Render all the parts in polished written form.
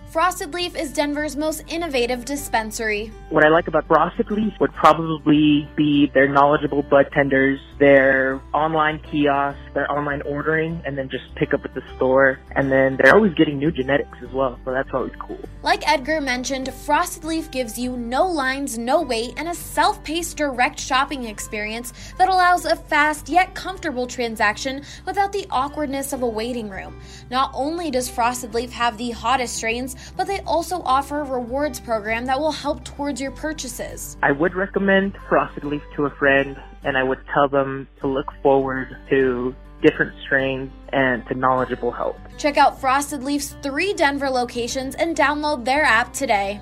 Frosted Leaf is Denver's most innovative dispensary. What I like about Frosted Leaf would probably be their knowledgeable bud tenders, their online kiosks, their online ordering, and then just pick up at the store. And then they're always getting new genetics as well, so that's always cool. Like Edgar mentioned, Frosted Leaf gives you no lines, no wait, and a self-paced direct shopping experience that allows a fast yet comfortable transaction without the awkwardness of a waiting room. Not only does Frosted Leaf have the hottest strains, but they also offer a rewards program that will help towards your purchases. I would recommend Frosted Leaf to a friend, and I would tell them to look forward to different strains and to knowledgeable help. Check out Frosted Leaf's 3 Denver locations and download their app today.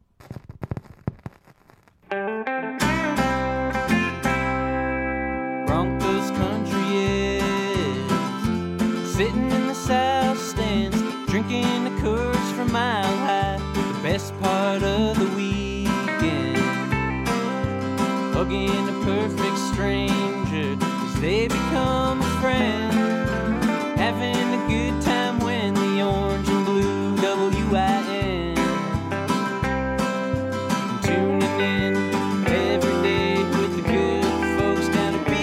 Broncos country is sitting in the south stands, drinking the Coors from Mile High, the best part of the weekend, hugging a perfect stranger as they become a friend, having a good time when the orange and blue WIN, tuning in every day with the good folks down at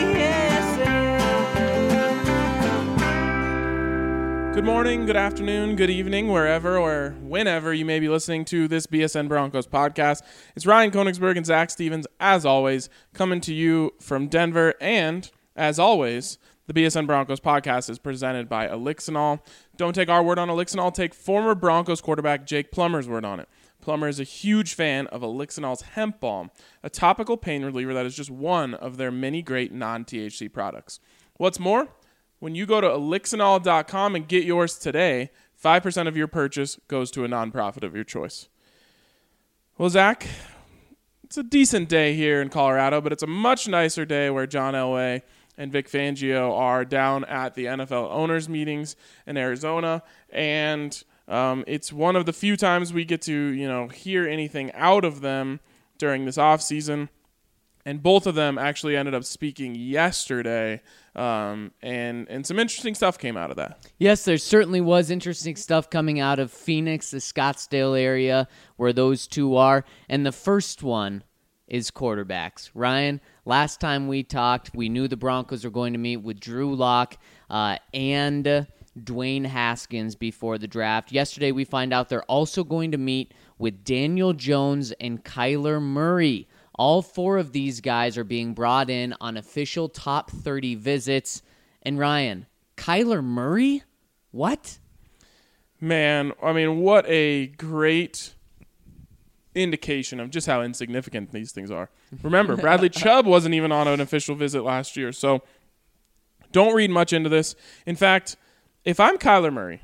BSN. Good morning, good afternoon, good evening, wherever or whenever you may be listening to this BSN Broncos podcast. It's Ryan Koenigsberg and Zach Stevens, as always, coming to you from Denver. And, as always, the BSN Broncos podcast is presented by Elixinol. Don't take our word on Elixinol. Take former Broncos quarterback Jake Plummer's word on it. Plummer is a huge fan of Elixinol's Hemp Balm, a topical pain reliever that is just one of their many great non-THC products. What's more, when you go to elixinol.com and get yours today, 5% of your purchase goes to a nonprofit of your choice. Well, Zach, it's a decent day here in Colorado, but it's a much nicer day where John Elway and Vic Fangio are down at the NFL owners meetings in Arizona, and it's one of the few times we get to, hear anything out of them during this offseason. And both of them actually ended up speaking yesterday, and some interesting stuff came out of that. Yes, there certainly was interesting stuff coming out of Phoenix, the Scottsdale area, where those two are. And the first one is quarterbacks. Ryan, last time we talked, we knew the Broncos were going to meet with Drew Lock and Dwayne Haskins before the draft. Yesterday we find out they're also going to meet with Daniel Jones and Kyler Murray. All 4 of these guys are being brought in on official top 30 visits. And Ryan, Kyler Murray? What? Man, I mean, what a great indication of just how insignificant these things are. Remember, Bradley Chubb wasn't even on an official visit last year, so don't read much into this. In fact, if I'm Kyler Murray,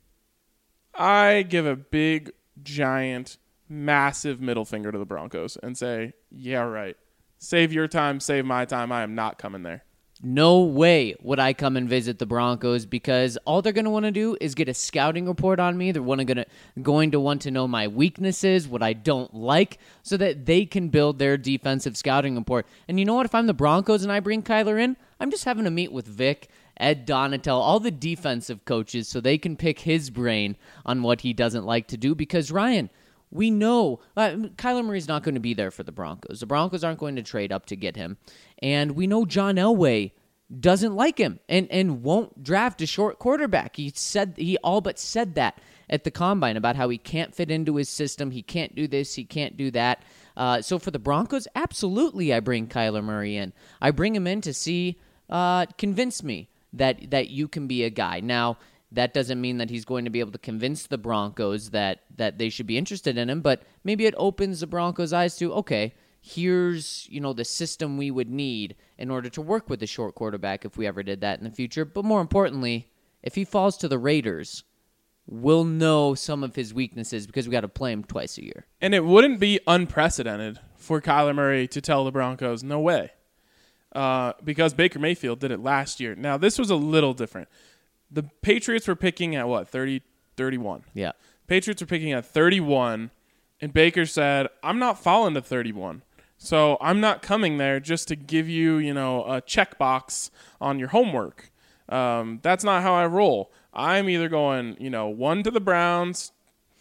I give a big, giant, massive middle finger to the Broncos and say, yeah, right. Save your time, save my time. I am not coming there. No way would I come and visit the Broncos, because all they're going to want to do is get a scouting report on me. They're going to want to know my weaknesses, what I don't like, so that they can build their defensive scouting report. And you know what? If I'm the Broncos and I bring Kyler in, I'm just having to meet with Vic, Ed Donatel, all the defensive coaches, so they can pick his brain on what he doesn't like to do. Because, Ryan, we know Kyler Murray's not going to be there for the Broncos. The Broncos aren't going to trade up to get him. And we know John Elway doesn't like him and won't draft a short quarterback. He all but said that at the Combine about how he can't fit into his system. He can't do this. He can't do that. So for the Broncos, absolutely I bring Kyler Murray in. I bring him in to see, convince me that you can be a guy. Now, that doesn't mean that he's going to be able to convince the Broncos that they should be interested in him, but maybe it opens the Broncos' eyes to, okay, here's, the system we would need in order to work with a short quarterback if we ever did that in the future. But more importantly, if he falls to the Raiders, we'll know some of his weaknesses because we got to play him twice a year. And it wouldn't be unprecedented for Kyler Murray to tell the Broncos, no way, because Baker Mayfield did it last year. Now, this was a little different. The Patriots were picking at, 31? Yeah. Patriots were picking at 31, and Baker said, I'm not falling to 31, so I'm not coming there just to give you, a checkbox on your homework. That's not how I roll. I'm either going, 1 to the Browns,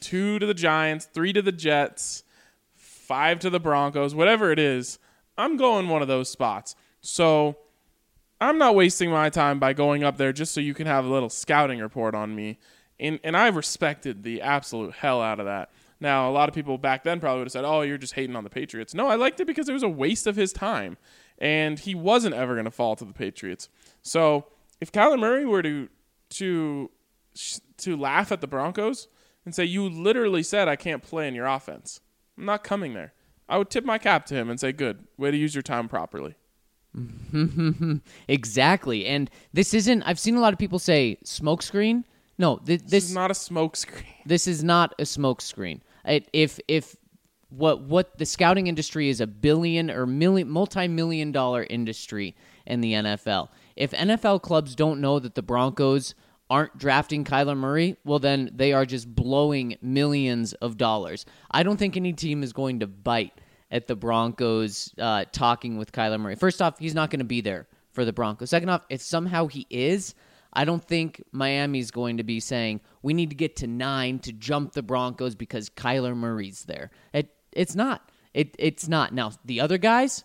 2 to the Giants, 3 to the Jets, 5 to the Broncos, whatever it is, I'm going one of those spots. So I'm not wasting my time by going up there just so you can have a little scouting report on me. And I respected the absolute hell out of that. Now, a lot of people back then probably would have said, oh, you're just hating on the Patriots. No, I liked it because it was a waste of his time. And he wasn't ever going to fall to the Patriots. So if Kyler Murray were to laugh at the Broncos and say, you literally said I can't play in your offense, I'm not coming there, I would tip my cap to him and say, good, way to use your time properly. Exactly. And this isn't, I've seen a lot of people say smokescreen. No, this is not a smokescreen. This is not a smokescreen. If what the scouting industry is, a billion or multi-million dollar industry in the NFL. If NFL clubs don't know that the Broncos aren't drafting Kyler Murray, well, then they are just blowing millions of dollars. I don't think any team is going to bite at the Broncos talking with Kyler Murray. First off, he's not going to be there for the Broncos. Second off, if somehow he is, I don't think Miami's going to be saying, we need to get to 9 to jump the Broncos because Kyler Murray's there. It's not. It's not. Now, the other guys,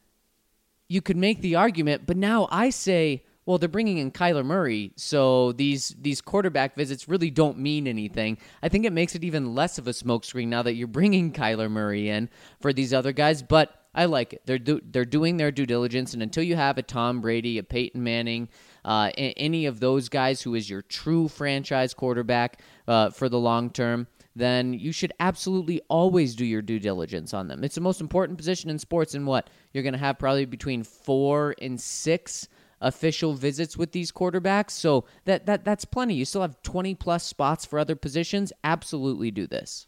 you could make the argument, but now I say, well, they're bringing in Kyler Murray, so these quarterback visits really don't mean anything. I think it makes it even less of a smokescreen now that you're bringing Kyler Murray in for these other guys, but I like it. They're doing their due diligence, and until you have a Tom Brady, a Peyton Manning, any of those guys who is your true franchise quarterback for the long term, then you should absolutely always do your due diligence on them. It's the most important position in sports, and what? You're going to have probably between 4 and 6 official visits with these quarterbacks, so that's plenty. You still have 20-plus spots for other positions. Absolutely do this.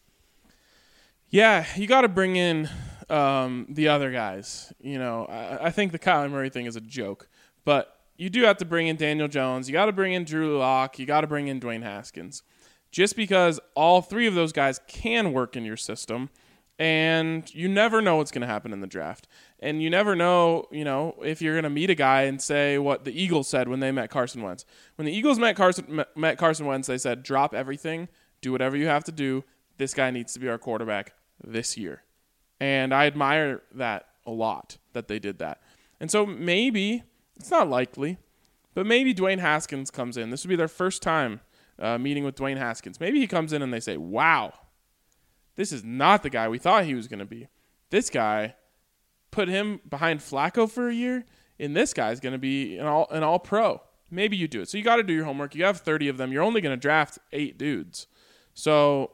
Yeah, you got to bring in the other guys. You know, I think the Kyler Murray thing is a joke, but you do have to bring in Daniel Jones. You got to bring in Drew Lock. You got to bring in Dwayne Haskins. Just because all 3 of those guys can work in your system, and you never know what's going to happen in the draft. And you never know, if you're going to meet a guy and say what the Eagles said when they met Carson Wentz. When the Eagles met Carson Wentz, they said, drop everything, do whatever you have to do. This guy needs to be our quarterback this year. And I admire that a lot, that they did that. And so maybe, it's not likely, but maybe Dwayne Haskins comes in. This would be their first time meeting with Dwayne Haskins. Maybe he comes in and they say, wow, this is not the guy we thought he was going to be. This guy, put him behind Flacco for a year, and this guy's going to be an all-pro. Maybe you do it. So you got to do your homework. You have 30 of them. You're only going to draft 8 dudes. So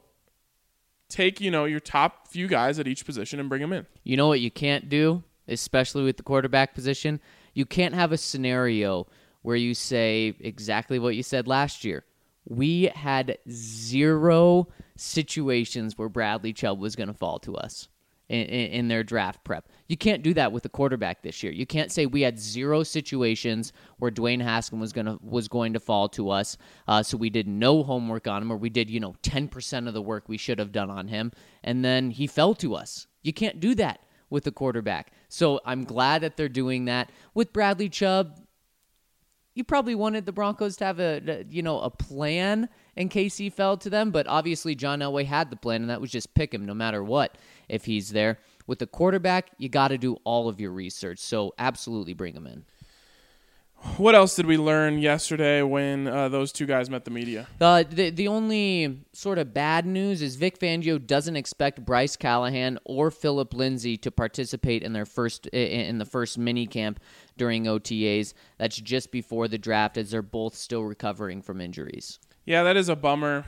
take, your top few guys at each position and bring them in. You know what you can't do, especially with the quarterback position? You can't have a scenario where you say exactly what you said last year. We had 0 situations where Bradley Chubb was going to fall to us in their draft prep. You can't do that with a quarterback this year. You can't say we had 0 situations where Dwayne Haskins was going to fall to us, so we did no homework on him, or we did 10% of the work we should have done on him, and then he fell to us. You can't do that with a quarterback. So I'm glad that they're doing that. With Bradley Chubb, you probably wanted the Broncos to have a plan in case he fell to them, but obviously John Elway had the plan, and that was just pick him no matter what if he's there. With the quarterback, you got to do all of your research, so absolutely bring him in. What else did we learn yesterday when those 2 guys met the media? The only sort of bad news is Vic Fangio doesn't expect Bryce Callahan or Phillip Lindsay to participate in the first mini camp during OTAs. That's just before the draft, as they're both still recovering from injuries. Yeah, that is a bummer.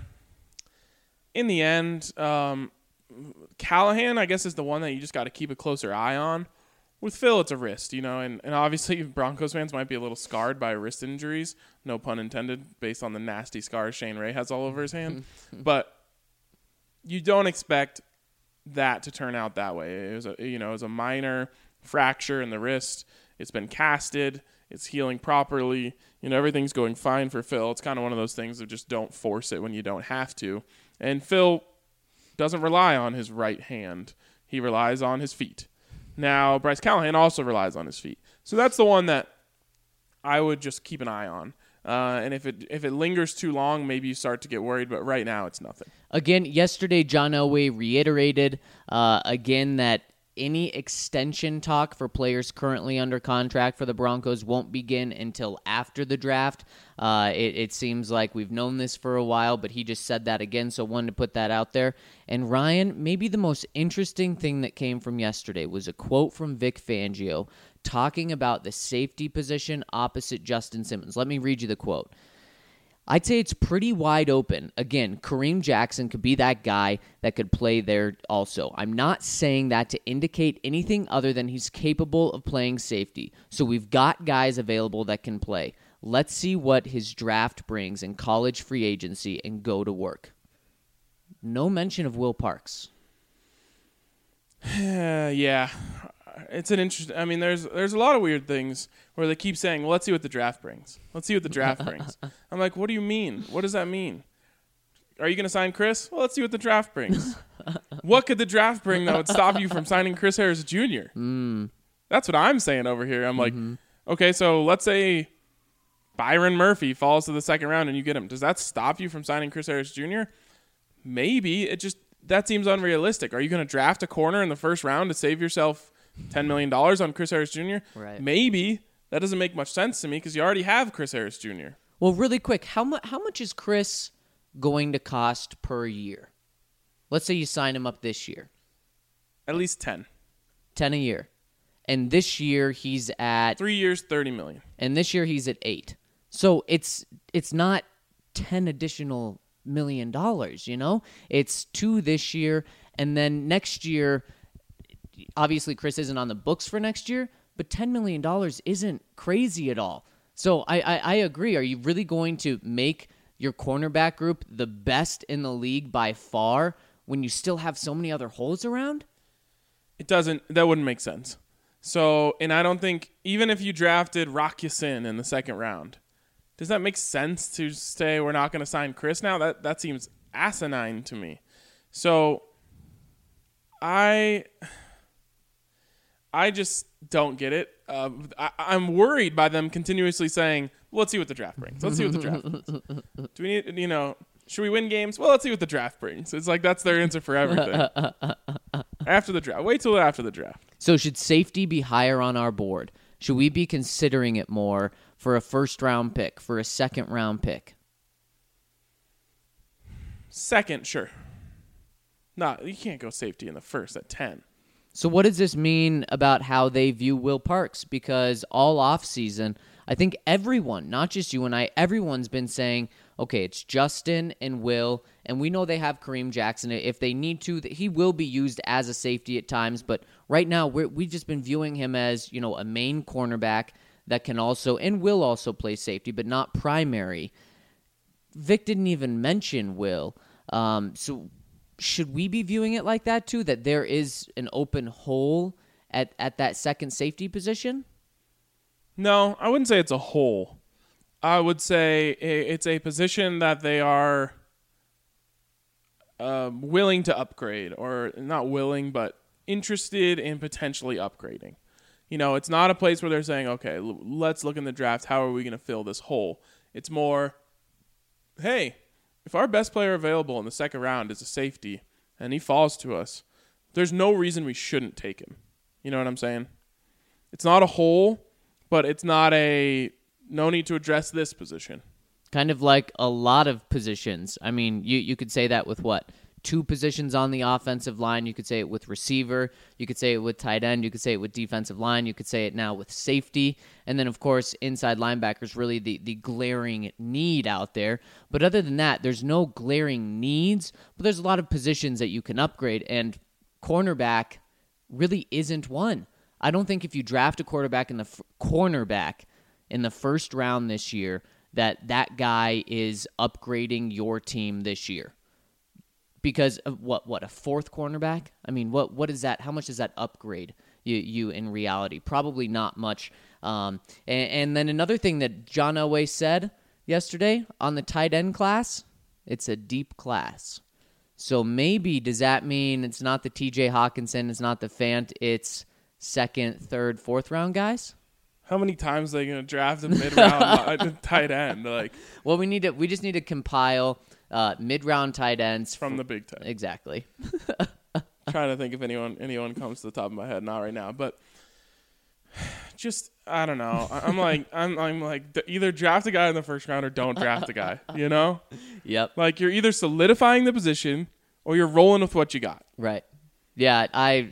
In the end, Callahan, I guess, is the one that you just got to keep a closer eye on. With Phil, it's a wrist, and obviously Broncos fans might be a little scarred by wrist injuries, no pun intended, based on the nasty scars Shane Ray has all over his hand. But you don't expect that to turn out that way. It was a minor fracture in the wrist. It's been casted. It's healing properly. Everything's going fine for Phil. It's kind of one of those things of just don't force it when you don't have to. And Phil doesn't rely on his right hand. He relies on his feet. Now, Bryce Callahan also relies on his feet. So that's the one that I would just keep an eye on. And if it lingers too long, maybe you start to get worried. But right now, it's nothing. Again, yesterday, John Elway reiterated again that any extension talk for players currently under contract for the Broncos won't begin until after the draft. It seems like we've known this for a while, but he just said that again, so wanted to put that out there. And Ryan, maybe the most interesting thing that came from yesterday was a quote from Vic Fangio talking about the safety position opposite Justin Simmons. Let me read you the quote. I'd say it's pretty wide open. Again, Kareem Jackson could be that guy that could play there also. I'm not saying that to indicate anything other than he's capable of playing safety. So we've got guys available that can play. Let's see what his draft brings in college free agency and go to work. No mention of Will Parks. Yeah. It's an interesting. I mean, there's a lot of weird things where they keep saying, well, "Let's see what the draft brings. Let's see what the draft brings." I'm like, what do you mean? What does that mean? Are you going to sign Chris? Well, let's see what the draft brings. What could the draft bring that would stop you from signing Chris Harris Jr.? That's what I'm saying over here. I'm like, okay, so let's say Byron Murphy falls to the second round and you get him. Does that stop you from signing Chris Harris Jr.? Maybe. That seems unrealistic. Are you going to draft a corner in the first round to save yourself $10 million on Chris Harris Jr.? Right. Maybe. That doesn't make much sense to me because you already have Chris Harris Jr. Well, really quick, how much is Chris going to cost per year? Let's say you sign him up this year. At least 10. 10 a year. And this year he's at 3 years, $30 million. And this year he's at 8. So it's not 10 additional $1 million, you know? It's 2 this year, and then next year, obviously Chris isn't on the books for next year, but $10 million isn't crazy at all. So I agree. Are you really going to make your cornerback group the best in the league by far when you still have so many other holes around? That wouldn't make sense. So, and I don't think, even if you drafted Rock Ya-Sin in the second round, does that make sense to say we're not going to sign Chris now? That seems asinine to me. So, I just don't get it. I'm worried by them continuously saying, well, let's see what the draft brings. Let's see what the draft brings. Do we need, should we win games? Well, let's see what the draft brings. It's like that's their answer for everything. After the draft. Wait till after the draft. So should safety be higher on our board? Should we be considering it more for a first-round pick, for a second-round pick? Second, sure. No, you can't go safety in the first at 10. So what does this mean about how they view Will Parks? Because all offseason, I think everyone, not just you and I, everyone's been saying, okay, it's Justin and Will, and we know they have Kareem Jackson. If they need to, he will be used as a safety at times, but right now we've just been viewing him as, a main cornerback that can also, and will also play safety, but not primary. Vic didn't even mention Will. So should we be viewing it like that too, that there is an open hole at that second safety position? No, I wouldn't say it's a hole. I would say it's a position that they are willing to upgrade, or not willing, but interested in potentially upgrading. It's not a place where they're saying, okay, let's look in the draft. How are we going to fill this hole? It's more, hey, if our best player available in the second round is a safety and he falls to us, there's no reason we shouldn't take him. You know what I'm saying? It's not a hole, but it's not no need to address this position. Kind of like a lot of positions. I mean, you could say that with what? 2 positions on the offensive line. You could say it with receiver. You could say it with tight end. You could say it with defensive line. You could say it now with safety. And then, of course, inside linebackers, really the glaring need out there. But other than that, there's no glaring needs, but there's a lot of positions that you can upgrade, and cornerback really isn't one. I don't think if you draft a cornerback in the first round this year, that guy is upgrading your team this year. Because of what a fourth cornerback? I mean, what is that? How much does that upgrade you in reality? Probably not much. And then another thing that John Elway said yesterday on the tight end class, it's a deep class. So maybe does that mean it's not the TJ Hawkinson, it's not the Fant, it's second, third, fourth round guys? How many times are they going to draft a mid-round tight end? Like, Well, we just need to compile mid-round tight ends from the Big Ten. Exactly. Trying to think if anyone comes to the top of my head, not right now, but just I don't know. I'm like either draft a guy in the first round or don't draft a guy. You know, Yep. like you're either solidifying the position or you're rolling with what you got. Right. Yeah.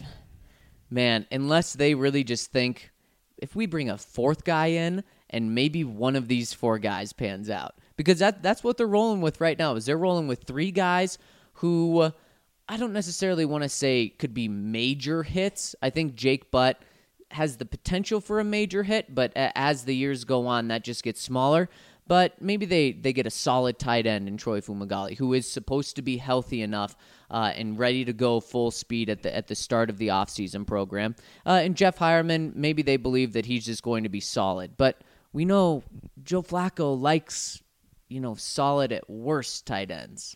Unless they really just think if we bring a fourth guy in and maybe one of these four guys pans out, because that's what they're rolling with right now. Is they're rolling with three guys who. I don't necessarily want to say could be major hits. I think Jake Butt has the potential for a major hit, but as the years go on, that just gets smaller. But maybe they get a solid tight end in Troy Fumagalli, who is supposed to be healthy enough and ready to go full speed at the start of the offseason program. And Jeff Hireman, maybe they believe that he's just going to be solid. But we know Joe Flacco likes, solid at worst tight ends.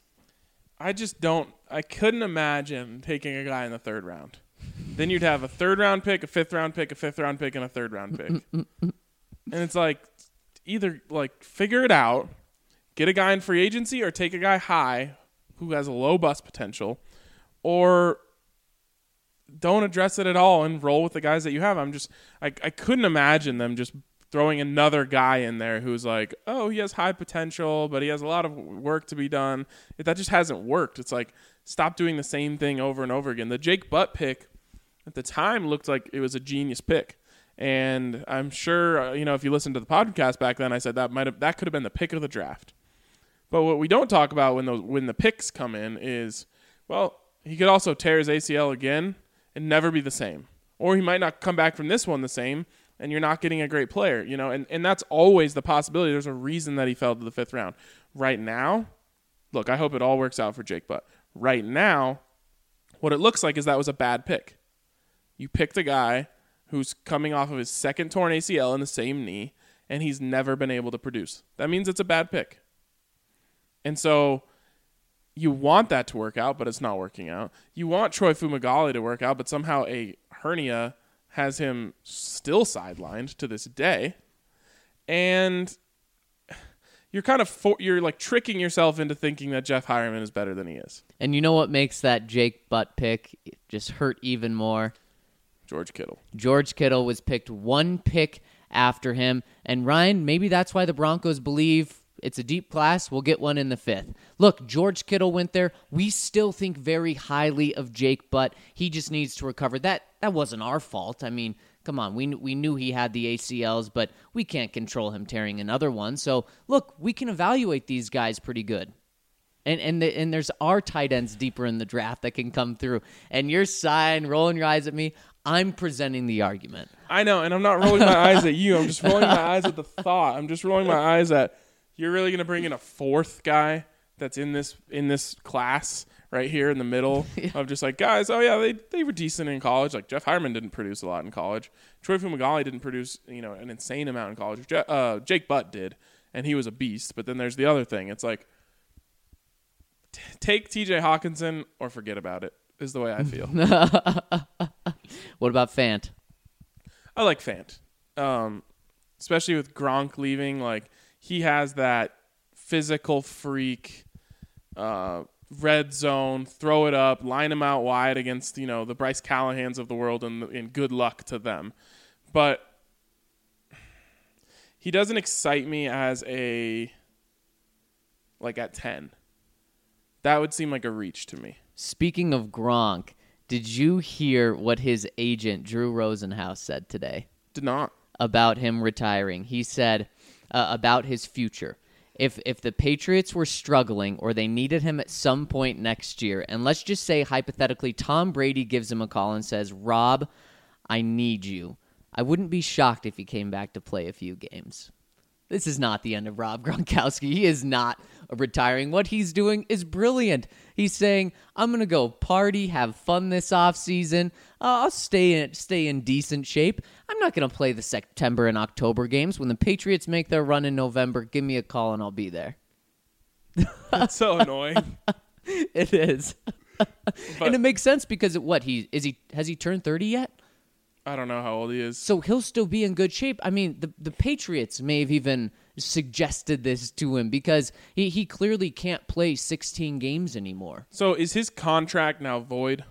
I couldn't imagine taking a guy in the third round. Then you'd have a third round pick, a fifth round pick, a fifth round pick, and a third round pick. And it's like either like figure it out, get a guy in free agency, or take a guy high who has a low bust potential, or don't address it at all and roll with the guys that you have. I couldn't imagine them just throwing another guy in there who's like, oh, he has high potential, but he has a lot of work to be done. That just hasn't worked. It's like, stop doing the same thing over and over again. The Jake Butt pick at the time looked like it was a genius pick. And I'm sure, if you listened to the podcast back then, I said that could have been the pick of the draft. But what we don't talk about when the picks come in is, well, he could also tear his ACL again and never be the same. Or he might not come back from this one the same, and you're not getting a great player, and that's always the possibility. There's a reason that he fell to the fifth round. Right now, look, I hope it all works out for Jake Butt. Right now, what it looks like is that was a bad pick. You picked a guy who's coming off of his second torn ACL in the same knee, and he's never been able to produce. That means it's a bad pick. And so you want that to work out, but it's not working out. You want Troy Fumagalli to work out, but somehow a hernia has him still sidelined to this day. And you're kind of you're like tricking yourself into thinking that Jeff Hireman is better than he is. And you know what makes that Jake Butt pick just hurt even more? George Kittle. George Kittle was picked one pick after him. And Ryan, maybe that's why the Broncos believe it's a deep class. We'll get one in the fifth. Look, George Kittle went there. We still think very highly of Jake Butt. He just needs to recover. That wasn't our fault. I mean, come on. We knew he had the ACLs, but we can't control him tearing another one. So, look, we can evaluate these guys pretty good. And there's our tight ends deeper in the draft that can come through. And you're sighing, rolling your eyes at me. I'm presenting the argument. I know, and I'm not rolling my eyes at you. I'm just rolling my eyes at the thought. I'm just rolling my eyes at you're really going to bring in a fourth guy that's in this class right here in the middle of just like, guys, oh, yeah, they were decent in college. Like, Jeff Hireman didn't produce a lot in college. Troy Fumagalli didn't produce, an insane amount in college. Jake Butt did, and he was a beast. But then there's the other thing. It's like, take TJ Hawkinson or forget about it is the way I feel. What about Fant? I like Fant. Especially with Gronk leaving, like, he has that physical freak, red zone, throw it up, line him out wide against, the Bryce Callahans of the world, and good luck to them. But he doesn't excite me as at 10. That would seem like a reach to me. Speaking of Gronk, did you hear what his agent, Drew Rosenhaus, said today? Did not. About him retiring. He said about his future. If the Patriots were struggling or they needed him at some point next year, and let's just say hypothetically Tom Brady gives him a call and says, Rob, I need you, I wouldn't be shocked if he came back to play a few games. This is not the end of Rob Gronkowski. He is not retiring. What he's doing is brilliant. He's saying, I'm going to go party, have fun this offseason. I'll stay in decent shape. I'm not going to play the September and October games. When the Patriots make their run in November, give me a call and I'll be there. That's so annoying. It is. And it makes sense because has he turned 30 yet? I don't know how old he is. So he'll still be in good shape. I mean, the Patriots may have even suggested this to him because he clearly can't play 16 games anymore. So is his contract now void?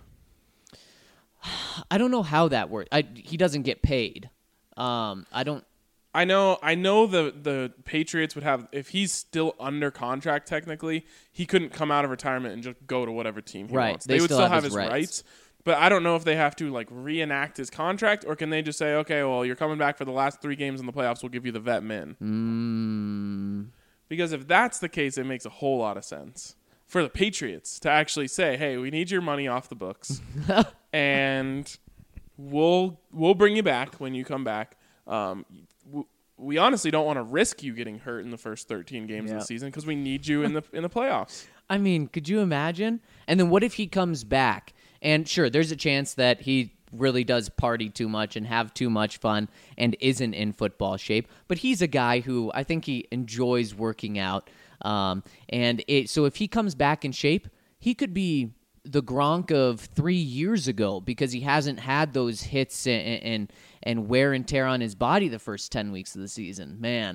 I don't know how that works. He doesn't get paid. I know the Patriots would have, if he's still under contract technically, he couldn't come out of retirement and just go to whatever team he wants. They would still have his rights. But I don't know if they have to like reenact his contract, or can they just say, okay, well, you're coming back for the last 3 games in the playoffs, we'll give you the vet min. Because if that's the case, it makes a whole lot of sense for the Patriots to actually say, hey, we need your money off the books and we'll bring you back when you come back. We honestly don't want to risk you getting hurt in the first 13 games of the season because we need you in the playoffs. I mean, could you imagine? And then what if he comes back? And sure, there's a chance that he really does party too much and have too much fun and isn't in football shape. But he's a guy who I think he enjoys working out. So if he comes back in shape, he could be the Gronk of 3 years ago because he hasn't had those hits and wear and tear on his body the first 10 weeks of the season. Man,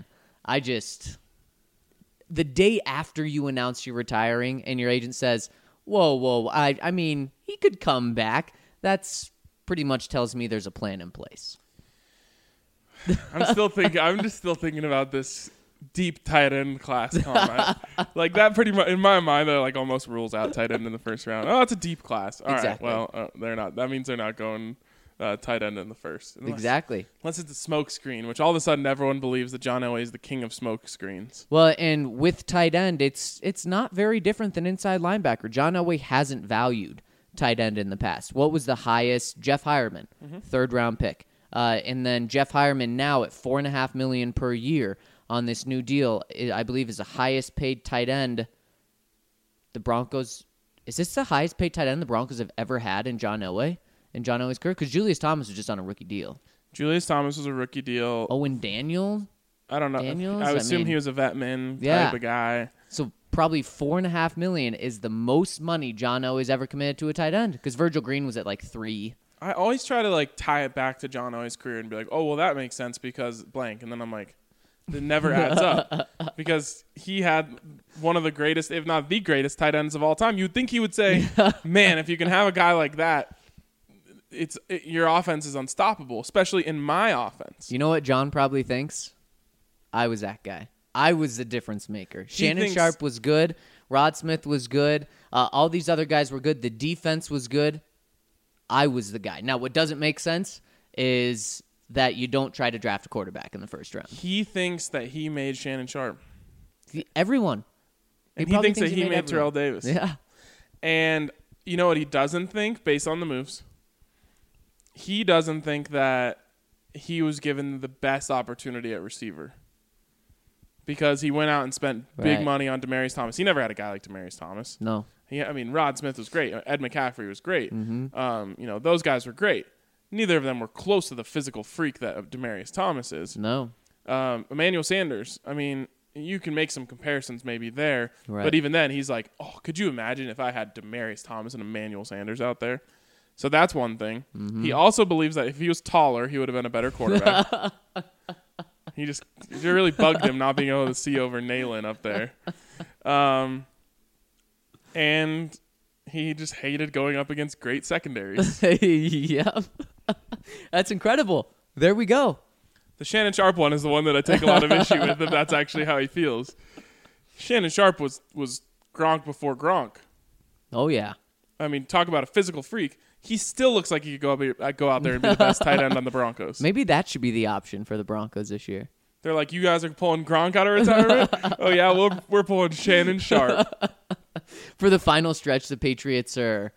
the day after you announce you're retiring and your agent says, whoa, I mean, he could come back. That's pretty much tells me there's a plan in place. I'm just still thinking about this deep tight end class comment. Like that pretty much, in my mind, that like almost rules out tight end in the first round. Oh, it's a deep class. All exactly. right, well, they're not. That means they're not going tight end in the first. Exactly. Unless it's a smoke screen, which all of a sudden everyone believes that John Elway is the king of smoke screens. Well, and with tight end, it's not very different than inside linebacker. John Elway hasn't valued tight end in the past. What was the highest? Jeff Hireman, 3rd round pick. And then Jeff Hireman now at $4.5 million per year on this new deal, I believe is the highest paid tight end the Broncos. Is this the highest paid tight end the Broncos have ever had in John Elway? In John Elway's career? Because Julius Thomas was just on a rookie deal. Julius Thomas was a rookie deal. Owen Daniel? I don't know. Daniels? I would assume he was a vet man type of guy. So probably $4.5 million is the most money John Elway's ever committed to a tight end. Because Virgil Green was at like 3. I always try to like tie it back to John Elway's career and be like, oh, well, that makes sense because blank. And then I'm like, it never adds up because he had one of the greatest, if not the greatest, tight ends of all time. You'd think he would say, man, if you can have a guy like that, your offense is unstoppable, especially in my offense. You know what John probably thinks? I was that guy. I was the difference maker. Shannon Sharp was good. Rod Smith was good. All these other guys were good. The defense was good. I was the guy. Now, what doesn't make sense is that you don't try to draft a quarterback in the first round. He thinks that he made Shannon Sharp. Everyone. And he thinks that he made Terrell Davis. Yeah. And you know what he doesn't think based on the moves? He doesn't think that he was given the best opportunity at receiver because he went out and spent big money on Demaryius Thomas. He never had a guy like Demaryius Thomas. No. Rod Smith was great. Ed McCaffrey was great. Those guys were great. Neither of them were close to the physical freak that Demaryius Thomas is. No. Emmanuel Sanders, I mean, you can make some comparisons maybe there. Right. But even then, he's like, oh, could you imagine if I had Demaryius Thomas and Emmanuel Sanders out there? So that's one thing. Mm-hmm. He also believes that if he was taller, he would have been a better quarterback. It really bugged him not being able to see over Nalen up there. And he just hated going up against great secondaries. Yep. That's incredible. There we go. The Shannon Sharp one is the one that I take a lot of issue with, if that's actually how he feels. Shannon Sharp was Gronk before Gronk. Oh, yeah. I mean, talk about a physical freak. He still looks like he could go out there and be the best tight end on the Broncos. Maybe that should be the option for the Broncos this year. They're like, you guys are pulling Gronk out of retirement? Oh, yeah, we're pulling Shannon Sharp. For the final stretch, the Patriots are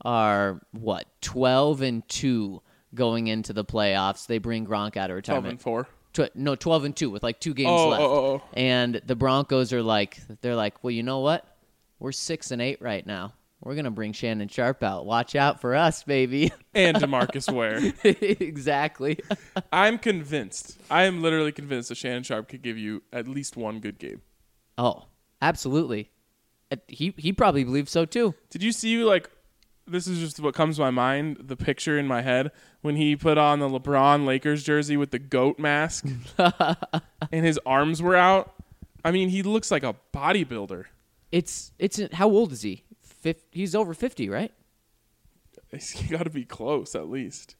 12-2 going into the playoffs. They bring Gronk out of retirement. 12-4. 12-2 with like 2 games left. And the Broncos are they're like, well, you know what? We're 6-8 right now. We're going to bring Shannon Sharp out. Watch out for us, baby. And DeMarcus Ware. Exactly. I'm convinced. I am literally convinced that Shannon Sharp could give you at least one good game. Oh, absolutely. He probably believes so, too. Did you see, like, this is just what comes to my mind, the picture in my head, when he put on the LeBron Lakers jersey with the goat mask and his arms were out. I mean, he looks like a bodybuilder. It's how old is he? He's over 50, right? He's got to be close, at least.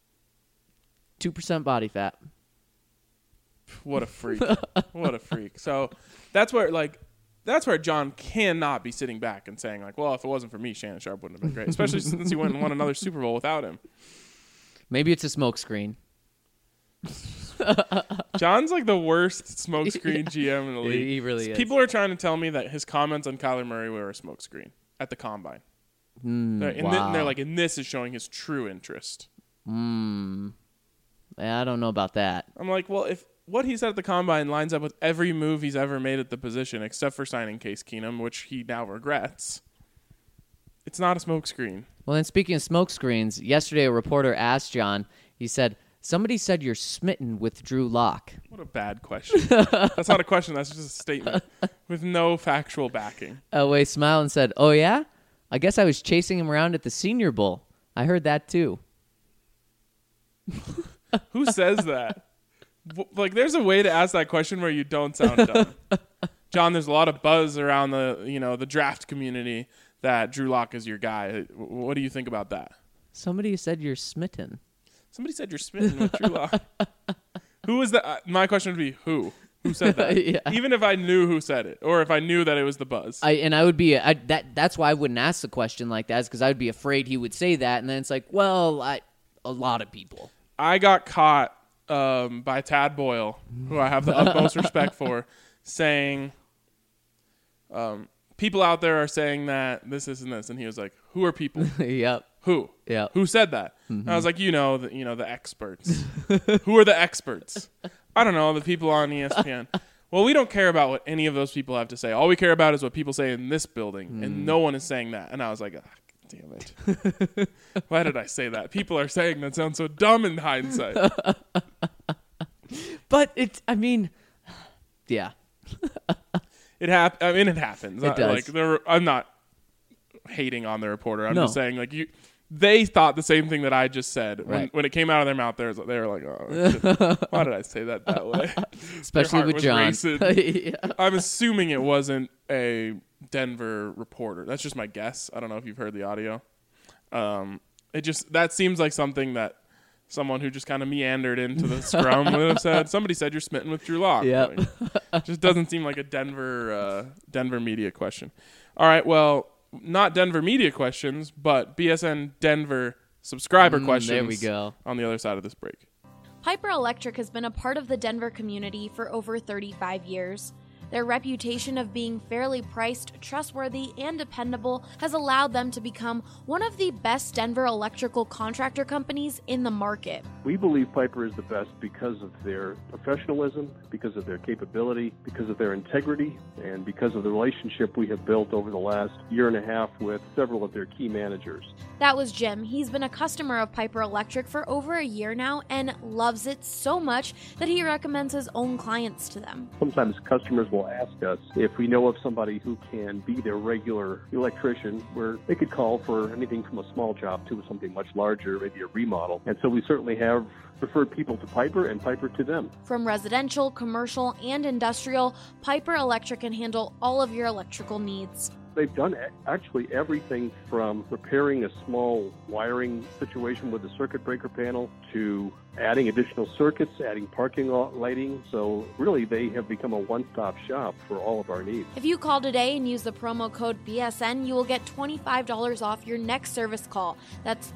2% body fat. What a freak. What a freak. So that's where John cannot be sitting back and saying, like, well, if it wasn't for me, Shannon Sharpe wouldn't have been great, especially since he went and won another Super Bowl without him. Maybe it's a smokescreen. John's like the worst smokescreen GM in the league. He really is. People are trying to tell me that his comments on Kyler Murray were a smokescreen at the Combine. Wow. They're like, and this is showing his true interest. I don't know about that. I'm like, well, if what he said at the Combine lines up with every move he's ever made at the position, except for signing Case Keenum, which he now regrets, it's not a smokescreen. Well, then speaking of smokescreens, yesterday a reporter asked John, he said, somebody said you're smitten with Drew Lock. What a bad question. That's not a question. That's just a statement with no factual backing. Elway smiled and said, oh, yeah? I guess I was chasing him around at the Senior Bowl. I heard that, too. Who says that? Like, there's a way to ask that question where you don't sound dumb. John, there's a lot of buzz around the draft community that Drew Lock is your guy. What do you think about that? Somebody said you're smitten. Somebody said you're smitten with Drew Lock. Who was that? My question would be who? Who said that? Yeah. Even if I knew who said it, or if I knew that it was the buzz. I would be that's why I wouldn't ask the question like that, because I would be afraid he would say that, and then it's like, well, a lot of people. I got caught by Tad Boyle, who I have the utmost respect for, saying, people out there are saying that this, and this, and he was like, who are people? Yep. Who? Yeah. Who said that? And I was like, the experts. Who are the experts? I don't know, the people on ESPN. Well, we don't care about what any of those people have to say. All we care about is what people say in this building, and no one is saying that. And I was like, damn it. Why did I say that? People are saying that sounds so dumb in hindsight. But yeah. It happens. It does. I'm not hating on the reporter. I'm No. just saying, like, they thought the same thing that I just said. Right. When it came out of their mouth, they were like, oh, why did I say that way? Especially Their heart with was John. racing. Yeah. I'm assuming it wasn't a Denver reporter. That's just my guess. I don't know if you've heard the audio. That seems like something that someone who just kind of meandered into the scrum would have said. Somebody said you're smitten with Drew Lock. Yep. Like, just doesn't seem like a Denver media question. All right, well, not Denver media questions, but BSN Denver subscriber questions. There we go. On the other side of this break. Piper Electric has been a part of the Denver community for over 35 years. Their reputation of being fairly priced, trustworthy, and dependable has allowed them to become one of the best Denver electrical contractor companies in the market. We believe Piper is the best because of their professionalism, because of their capability, because of their integrity, and because of the relationship we have built over the last year and a half with several of their key managers. That was Jim. He's been a customer of Piper Electric for over a year now and loves it so much that he recommends his own clients to them. Sometimes customers will ask us if we know of somebody who can be their regular electrician, where they could call for anything from a small job to something much larger, maybe a remodel. And so we certainly have referred people to Piper and Piper to them. From residential, commercial, and industrial, Piper Electric can handle all of your electrical needs. They've done actually everything from repairing a small wiring situation with a circuit breaker panel to adding additional circuits, adding parking lot lighting. So really, they have become a one-stop shop for all of our needs. If you call today and use the promo code BSN, you will get $25 off your next service call. That's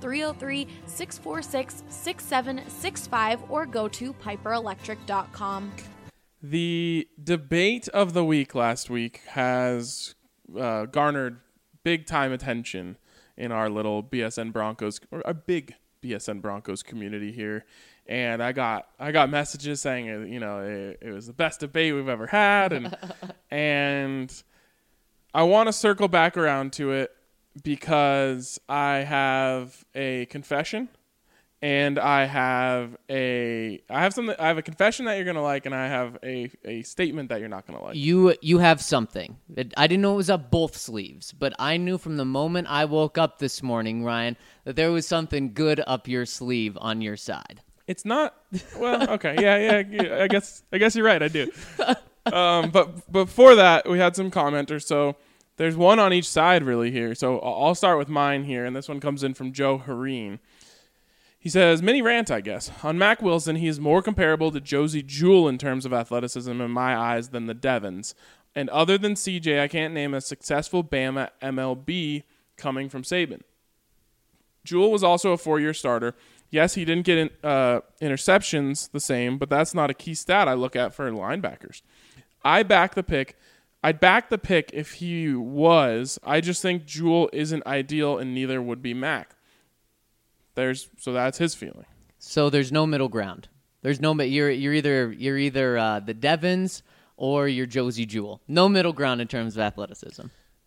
303-646-6765 or go to piperelectric.com. The debate of the week last week has garnered big time attention in our little BSN Broncos, or a big BSN Broncos community here. And I got messages saying, it was the best debate we've ever had. And I want to circle back around to it because I have a confession and I have a confession that you're gonna like, and I have a statement that you're not gonna like. You have something. I didn't know it was up both sleeves, but I knew from the moment I woke up this morning, Ryan, that there was something good up your sleeve on your side. It's not. Well, okay, yeah. I guess you're right. I do. But before that, we had some commenters. So there's one on each side really here. So I'll start with mine here, and this one comes in from Joe Hareen. He says, mini rant, I guess. On Mac Wilson, he is more comparable to Josie Jewell in terms of athleticism in my eyes than the Devons. And other than CJ, I can't name a successful Bama MLB coming from Saban. Jewell was also a 4-year starter. Yes, he didn't get interceptions the same, but that's not a key stat I look at for linebackers. I'd back the pick if he was. I just think Jewell isn't ideal, and neither would be Mac. So that's his feeling. So there's no middle ground. There's no you're either the Devons or you're Josie Jewell. No middle ground in terms of athleticism.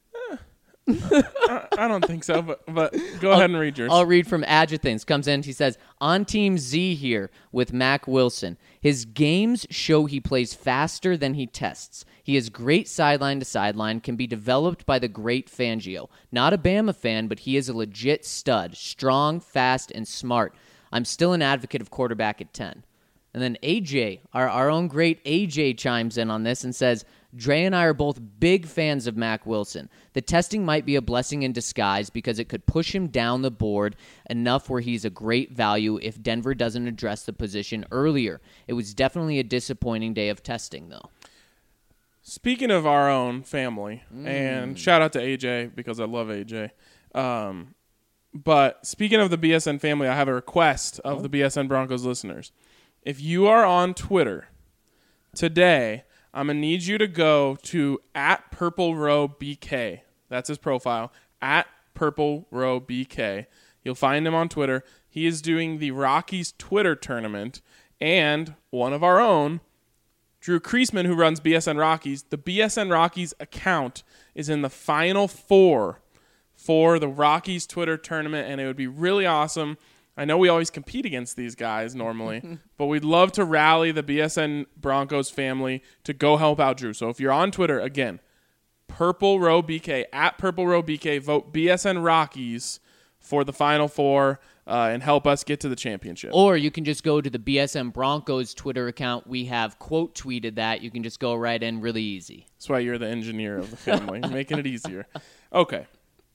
I don't think so, but go ahead and read yours. I'll read from Adjuthants. Comes in, he says, on Team Z here with Mac Wilson. His games show he plays faster than he tests. He is great sideline to sideline, can be developed by the great Fangio. Not a Bama fan, but he is a legit stud. Strong, fast, and smart. I'm still an advocate of quarterback at 10. And then AJ, our own great AJ chimes in on this and says, Dre and I are both big fans of Mac Wilson. The testing might be a blessing in disguise because it could push him down the board enough where he's a great value if Denver doesn't address the position earlier. It was definitely a disappointing day of testing, though. Speaking of our own family, and shout out to AJ because I love AJ. But speaking of the BSN family, I have a request of the BSN Broncos listeners. If you are on Twitter today, I'm going to need you to go to @PurpleRowBK. That's his profile, @PurpleRowBK. You'll find him on Twitter. He is doing the Rockies Twitter tournament, and one of our own, Drew Kreisman, who runs BSN Rockies. The BSN Rockies account is in the Final Four for the Rockies Twitter tournament, and it would be really awesome. I know we always compete against these guys normally, but we'd love to rally the BSN Broncos family to go help out Drew. So if you're on Twitter, again, PurpleRowBK, @PurpleRowBK, vote BSN Rockies for the Final Four and help us get to the championship. Or you can just go to the BSN Broncos Twitter account. We have quote tweeted that. You can just go right in really easy. That's why you're the engineer of the family, making it easier. Okay.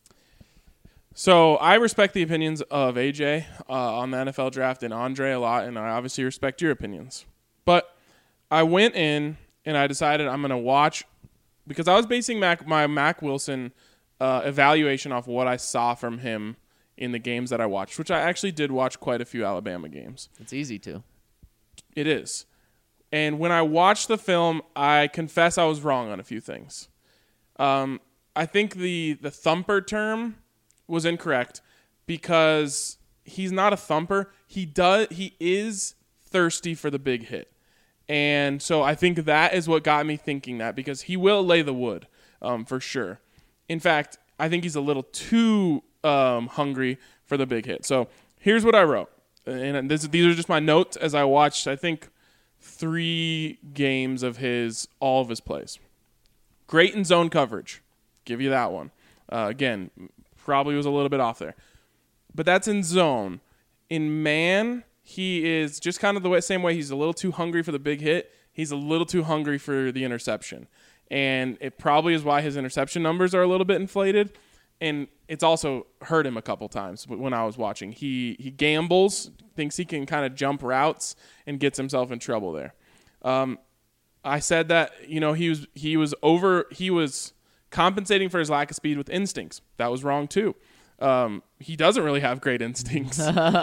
So I respect the opinions of AJ on the NFL draft and Andre a lot, and I obviously respect your opinions. But I went in and I decided I'm going to watch, because I was basing my Mac Wilson evaluation off what I saw from him in the games that I watched, which I actually did watch quite a few Alabama games. It's easy to. It is. And when I watched the film, I confess I was wrong on a few things. I think the thumper term was incorrect because he's not a thumper. He is thirsty for the big hit. And so I think that is what got me thinking that, because he will lay the wood for sure. In fact, I think he's a little too hungry for the big hit. So here's what I wrote. And these are just my notes as I watched, I think, 3 games of all of his plays. Great in zone coverage. Give you that one. Again, probably was a little bit off there. But that's in zone. In man, he is just kind of the same way. He's a little too hungry for the big hit. He's a little too hungry for the interception. And it probably is why his interception numbers are a little bit inflated. And it's also hurt him a couple times when I was watching. He gambles, thinks he can kind of jump routes, and gets himself in trouble there. I said that, he was compensating for his lack of speed with instincts. That was wrong too. He doesn't really have great instincts.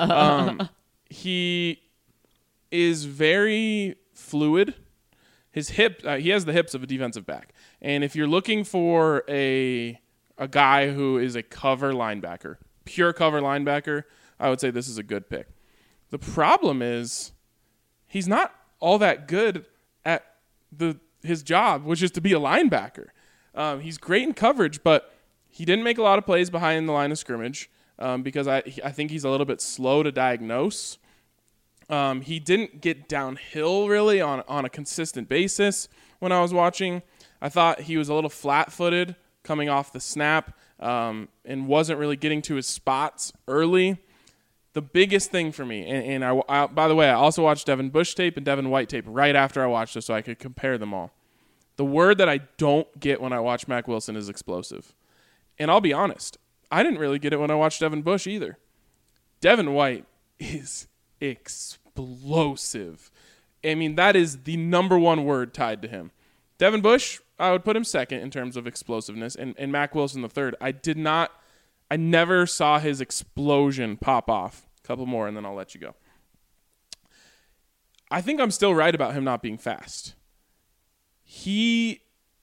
He is very fluid. His hip, he has the hips of a defensive back. And if you're looking for a guy who is a cover linebacker, pure cover linebacker, I would say this is a good pick. The problem is he's not all that good at his job, which is to be a linebacker. He's great in coverage, but he didn't make a lot of plays behind the line of scrimmage. because I think he's a little bit slow to diagnose. He didn't get downhill really on a consistent basis when I was watching. I thought he was a little flat-footed coming off the snap and wasn't really getting to his spots early. The biggest thing for me, and I by the way, I also watched Devin Bush tape and Devin White tape right after I watched this so I could compare them all. The word that I don't get when I watch Mack Wilson is explosive. And I'll be honest, I didn't really get it when I watched Devin Bush either. Devin White is explosive. I mean, that is the number one word tied to him. Devin Bush, I would put him second in terms of explosiveness, and Mack Wilson the third. I never saw his explosion pop off. A couple more, and then I'll let you go. I think I'm still right about him not being fast. He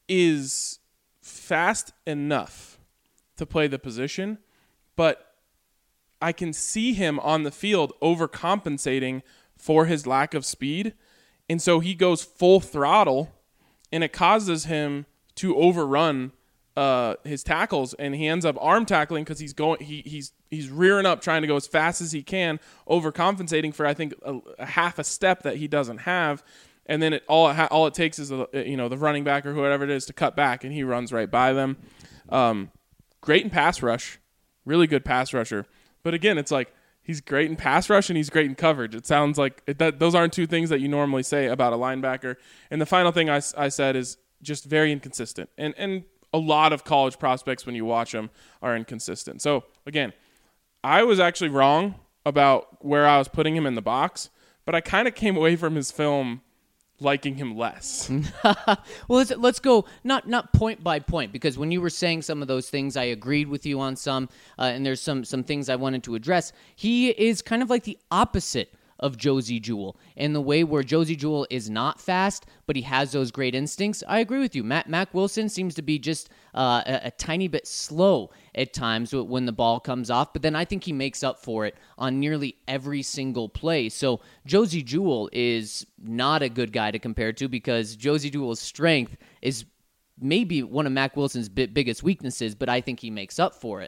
is fast enough to play the position, but I can see him on the field overcompensating for his lack of speed, and so he goes full throttle, and it causes him to overrun his tackles, and he ends up arm tackling because he's rearing up trying to go as fast as he can, overcompensating for I think a half a step that he doesn't have, and then all it takes is the running back or whoever it is to cut back, and he runs right by them. Great in pass rush, really good pass rusher, but again, it's like he's great in pass rush and he's great in coverage. It sounds like those aren't two things that you normally say about a linebacker. And the final thing I said is just very inconsistent, and a lot of college prospects, when you watch them, are inconsistent. So, again, I was actually wrong about where I was putting him in the box, but I kind of came away from his film liking him less. Well, let's go not point by point, because when you were saying some of those things, I agreed with you on some, and there's some things I wanted to address. He is kind of like the opposite of Josey Jewell in the way where Josey Jewell is not fast, but he has those great instincts. I agree with you. Mack Wilson seems to be just a tiny bit slow at times when the ball comes off, but then I think he makes up for it on nearly every single play. So Josey Jewell is not a good guy to compare to, because Josey Jewell's strength is maybe one of Mack Wilson's biggest weaknesses, but I think he makes up for it.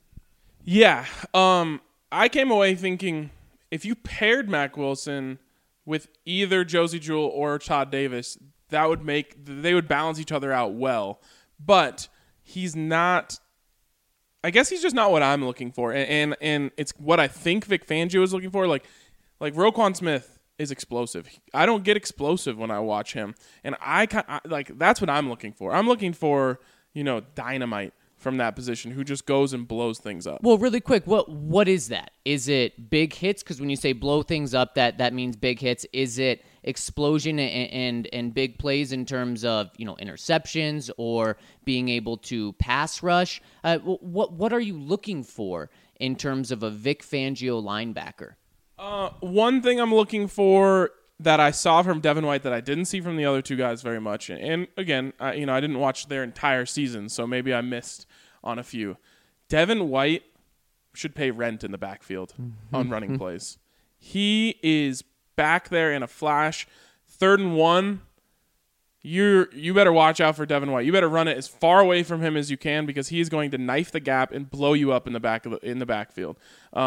Yeah. I came away thinking, if you paired Mack Wilson with either Josey Jewell or Todd Davis, they would balance each other out well. But he's not. I guess he's just not what I'm looking for, and it's what I think Vic Fangio is looking for. Like Roquan Smith is explosive. I don't get explosive when I watch him, and that's what I'm looking for. I'm looking for dynamite from that position, who just goes and blows things up. Well, really quick, what is that? Is it big hits? Because when you say blow things up, that means big hits. Is it explosion and big plays in terms of interceptions or being able to pass rush? What are you looking for in terms of a Vic Fangio linebacker? One thing I'm looking for that I saw from Devin White that I didn't see from the other two guys very much, and again, I didn't watch their entire season, so maybe I missed on a few. Devin White should pay rent in the backfield on running plays. He is back there in a flash. 3rd and 1, you better watch out for Devin White. You better run it as far away from him as you can, because he is going to knife the gap and blow you up in the backfield.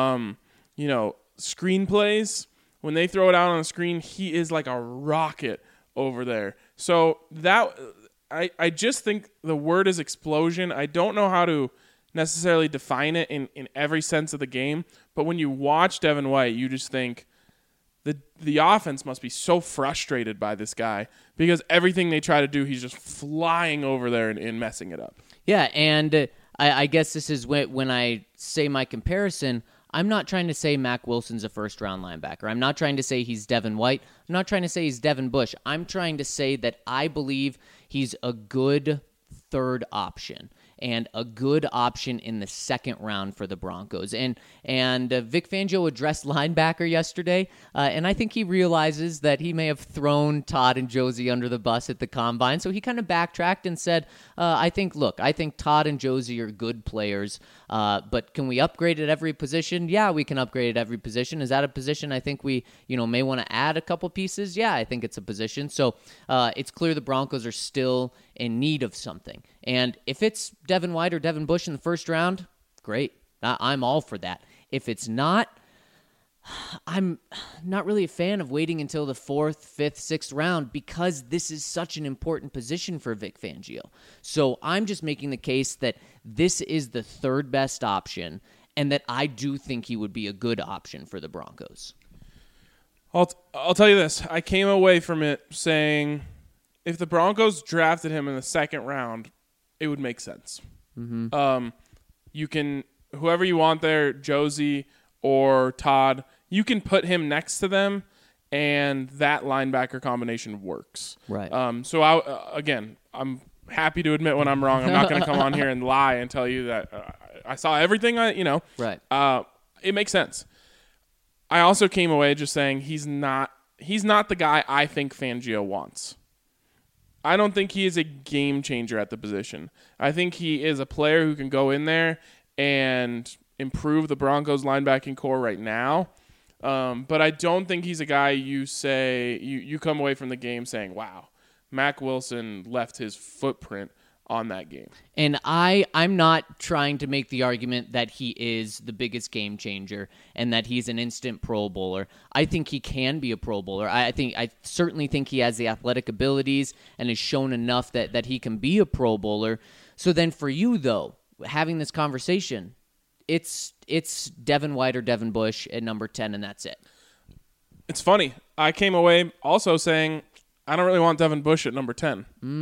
Screen plays. When they throw it out on the screen, he is like a rocket over there. So that I just think the word is explosion. I don't know how to necessarily define it in every sense of the game, but when you watch Devin White, you just think the offense must be so frustrated by this guy, because everything they try to do, he's just flying over there and messing it up. Yeah, and I guess this is when I say my comparison, I'm not trying to say Mack Wilson's a first-round linebacker. I'm not trying to say he's Devin White. I'm not trying to say he's Devin Bush. I'm trying to say that I believe he's a good third option and a good option in the second round for the Broncos. And Vic Fangio addressed linebacker yesterday, and I think he realizes that he may have thrown Todd and Josey under the bus at the Combine, so he kind of backtracked and said, I think Todd and Josey are good players, but can we upgrade at every position? Yeah, we can upgrade at every position. Is that a position I think we may want to add a couple pieces? Yeah, I think it's a position. So it's clear the Broncos are still in need of something. And if it's Devin White or Devin Bush in the first round, great. I'm all for that. If it's not, I'm not really a fan of waiting until the 4th, 5th, 6th round because this is such an important position for Vic Fangio. So I'm just making the case that this is the 3rd best option and that I do think he would be a good option for the Broncos. I'll tell you this. I came away from it saying if the Broncos drafted him in the 2nd round, it would make sense. Mm-hmm. You can, whoever you want there, Josie or Todd, you can put him next to them, and that linebacker combination works. Right. So, I'm happy to admit when I'm wrong. I'm not going to come on here and lie and tell you that I saw everything. Right. It makes sense. I also came away just saying he's not the guy I think Fangio wants. I don't think he is a game changer at the position. I think he is a player who can go in there and improve the Broncos linebacking core right now. But I don't think he's a guy you say you come away from the game saying, wow, Mack Wilson left his footprint on that game. And I'm not trying to make the argument that he is the biggest game changer and that he's an instant Pro Bowler. I think he can be a Pro Bowler. I certainly think he has the athletic abilities and has shown enough that he can be a Pro Bowler. So then for you, though, having this conversation, it's Devin White or Devin Bush at number 10, and that's it. It's funny. I came away also saying I don't really want Devin Bush at number 10.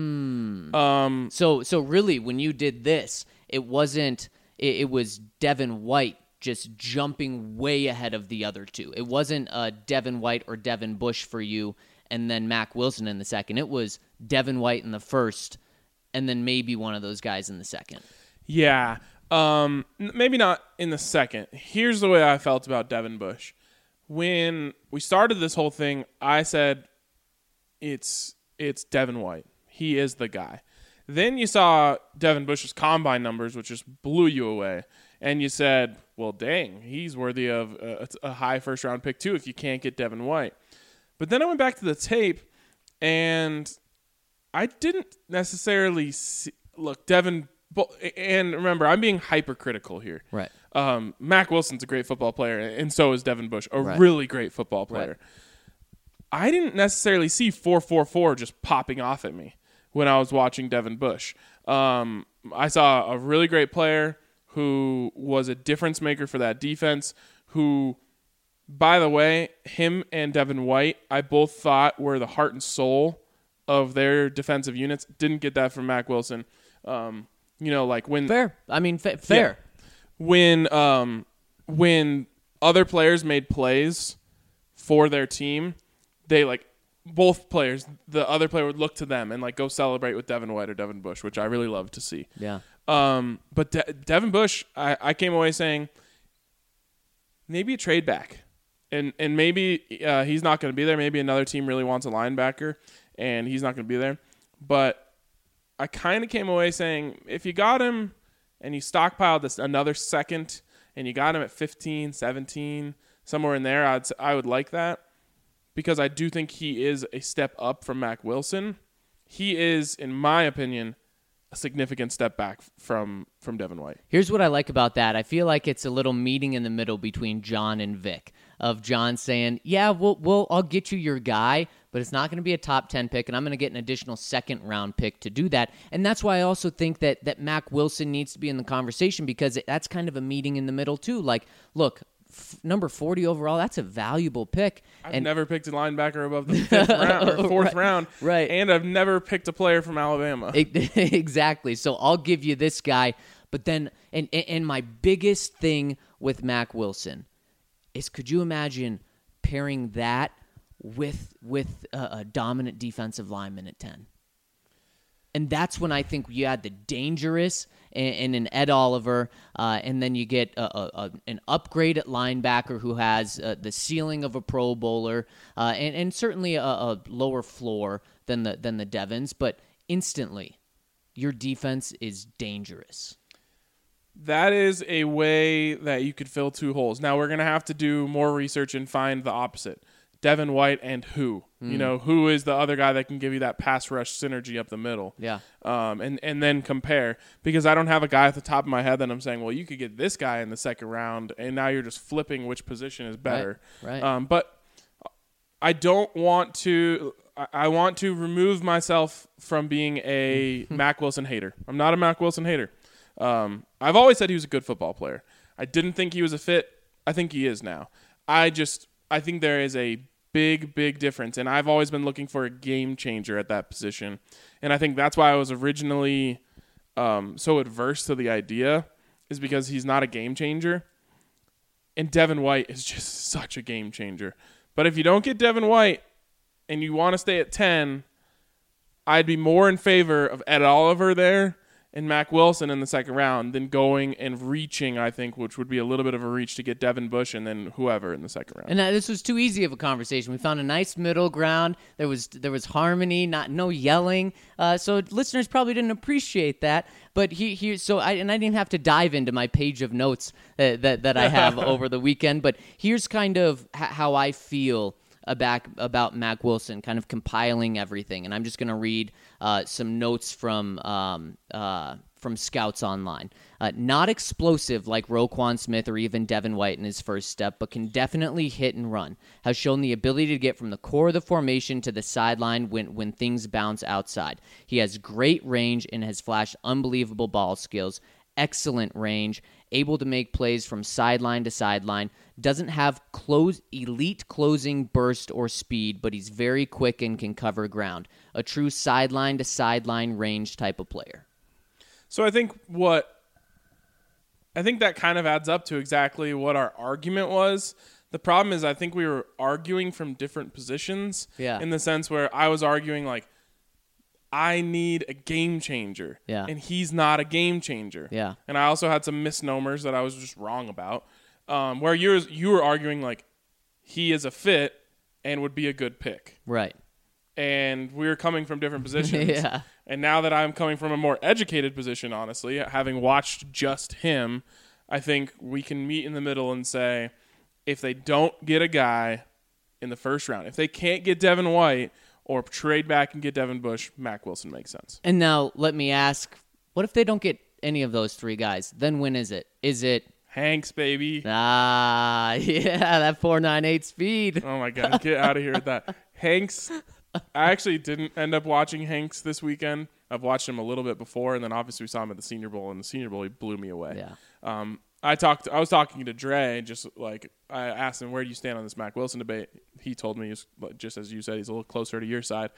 So really, when you did this, it was Devin White just jumping way ahead of the other two. It wasn't Devin White or Devin Bush for you, and then Mack Wilson in the 2nd. It was Devin White in the 1st, and then maybe one of those guys in the 2nd. Yeah. Maybe not in the 2nd. Here's the way I felt about Devin Bush. When we started this whole thing, I said it's Devin White. He is the guy. Then you saw Devin Bush's combine numbers, which just blew you away. And you said, well, dang, he's worthy of a high first-round pick, too, if you can't get Devin White. But then I went back to the tape, and I didn't necessarily see – look, Devin – and remember, I'm being hypercritical here. Right. Mack Wilson's a great football player, and so is Devin Bush, a really great football player. Right. I didn't necessarily see 4.44 just popping off at me when I was watching Devin Bush. I saw a really great player who was a difference maker for that defense, who, by the way, him and Devin White, I both thought were the heart and soul of their defensive units. Didn't get that from Mack Wilson. Like when... Fair. I mean, fair. Yeah. When other players made plays for their team, they both players, the other player would look to them and go celebrate with Devin White or Devin Bush, which I really love to see. Yeah. But Devin Bush, I came away saying maybe a trade back, and maybe he's not going to be there. Maybe another team really wants a linebacker, and he's not going to be there. But I kind of came away saying if you got him and you stockpiled another 2nd and you got him at 15, 17, somewhere in there, I would like that. Because I do think he is a step up from Mack Wilson. He is, in my opinion, a significant step back from Devin White. Here's what I like about that. I feel like it's a little meeting in the middle between John and Vic, of John saying, yeah, I'll get you your guy, but it's not going to be a top 10 pick, and I'm going to get an additional 2nd round pick to do that. And that's why I also think that Mack Wilson needs to be in the conversation, because that's kind of a meeting in the middle too. Look, number 40 overall, that's a valuable pick. I've never picked a linebacker above the 5th round or 4th round. Right. And I've never picked a player from Alabama. Exactly. So I'll give you this guy. But then, and my biggest thing with Mack Wilson is, could you imagine pairing that with a dominant defensive lineman at 10? And that's when I think you add the dangerous and an Ed Oliver, and then you get an upgrade at linebacker who has the ceiling of a Pro Bowler, and certainly a lower floor than the Devons, but instantly your defense is dangerous. That is a way that you could fill 2 holes. Now we're going to have to do more research and find the opposite. Devin White and who? You know, who is the other guy that can give you that pass rush synergy up the middle? Yeah. And then compare, because I don't have a guy at the top of my head that I'm saying, well, you could get this guy in the second round, and now you're just flipping which position is better. Right. But I don't want to. I want to remove myself from being a Mack Wilson hater. I'm not a Mack Wilson hater. I've always said he was a good football player. I didn't think he was a fit. I think he is now. I think there is a big difference, and I've always been looking for a game changer at that position, and I think that's why I was originally so adverse to the idea, is because he's not a game changer, and Devin White is just such a game changer. But if you don't get Devin White and you want to stay at 10, I'd be more in favor of Ed Oliver there and Mack Wilson in the second round than going and reaching, I think, which would be a little bit of a reach to get Devin Bush and then whoever in the second round. And this was too easy of a conversation. We found a nice middle ground. There was harmony, no yelling. So listeners probably didn't appreciate that. But I didn't have to dive into my page of notes that I have over the weekend. But here's kind of how I feel about Mack Wilson, kind of compiling everything. And I'm just going to read some notes from Scouts Online. Not explosive like Roquan Smith or even Devin White in his first step, but can definitely hit and run. Has shown the ability to get from the core of the formation to the sideline when things bounce outside. He has great range and has flashed unbelievable ball skills. Excellent range, able to make plays from sideline to sideline. Doesn't have elite closing burst or speed, but he's very quick and can cover ground. A true sideline to sideline range type of player. So I think that kind of adds up to exactly what our argument was. The problem is I think we were arguing from different positions. Yeah. In the sense where I was arguing like, I need a game changer. Yeah. And he's not a game changer. Yeah. And I also had some misnomers that I was just wrong about. Where you were arguing like he is a fit and would be a good pick. Right. And we were coming from different positions. Yeah. And now that I'm coming from a more educated position, honestly, having watched just him, I think we can meet in the middle and say, if they don't get a guy in the first round, if they can't get Devin White or trade back and get Devin Bush, Mack Wilson makes sense. And now let me ask, what if they don't get any of those three guys? Then when is it? Is it Hanks, baby? Yeah, that 4.98 speed. Oh, my God. Get out of here with that. Hanks, I actually didn't end up watching Hanks this weekend. I've watched him a little bit before, and then obviously we saw him at the Senior Bowl. And the Senior Bowl, he blew me away. Yeah. I was talking to Dre, just like I asked him, where do you stand on this Mack Wilson debate? He told me, just as you said, he's a little closer to your side.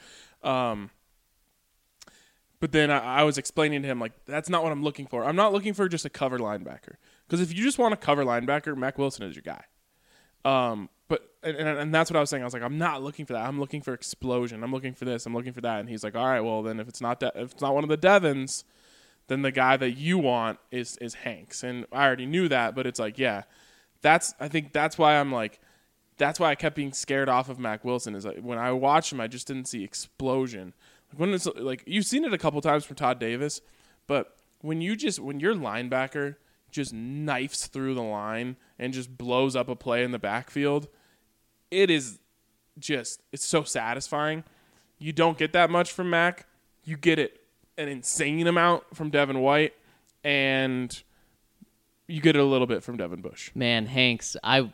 But then I was explaining to him, like, that's not what I'm looking for. I'm not looking for just a cover linebacker. Because if you just want a cover linebacker, Mack Wilson is your guy. But that's what I was saying. I was like, I'm not looking for that. I'm looking for explosion. I'm looking for this. I'm looking for that. And he's like, all right, well, then if it's not one of the Devins, then the guy that you want is Hanks. And I already knew that, but it's like, yeah, I think that's why I'm like, that's why I kept being scared off of Mack Wilson, is like when I watched him, I just didn't see explosion. When it's like, you've seen it a couple times from Todd Davis, but when your linebacker just knifes through the line and just blows up a play in the backfield, it's so satisfying. You don't get that much from Mack. You get it an insane amount from Devin White, and you get it a little bit from Devin Bush. Man, Hanks,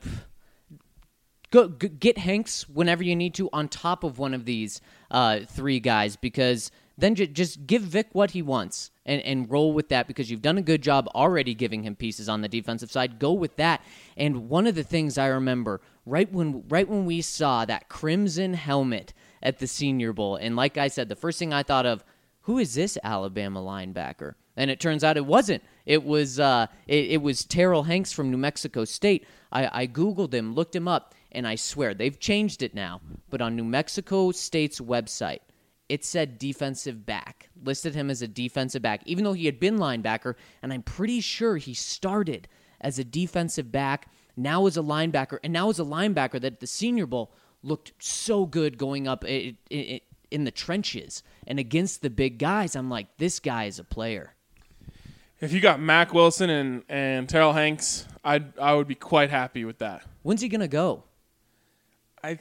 Go get Hanks whenever you need to on top of one of these three guys, because then just give Vic what he wants and roll with that, because you've done a good job already giving him pieces on the defensive side. Go with that. And one of the things I remember right when we saw that crimson helmet at the Senior Bowl, and like I said, the first thing I thought of, who is this Alabama linebacker? And it turns out it wasn't. It was Terrell Hanks from New Mexico State. I Googled him, looked him up, and I swear, they've changed it now. But on New Mexico State's website, it said defensive back. Listed him as a defensive back, even though he had been linebacker. And I'm pretty sure he started as a defensive back, now as a linebacker, and now as a linebacker that at the Senior Bowl looked so good going up in the trenches and against the big guys. I'm like, this guy is a player. If you got Mack Wilson and Terrell Hanks, I would be quite happy with that. When's he going to go? I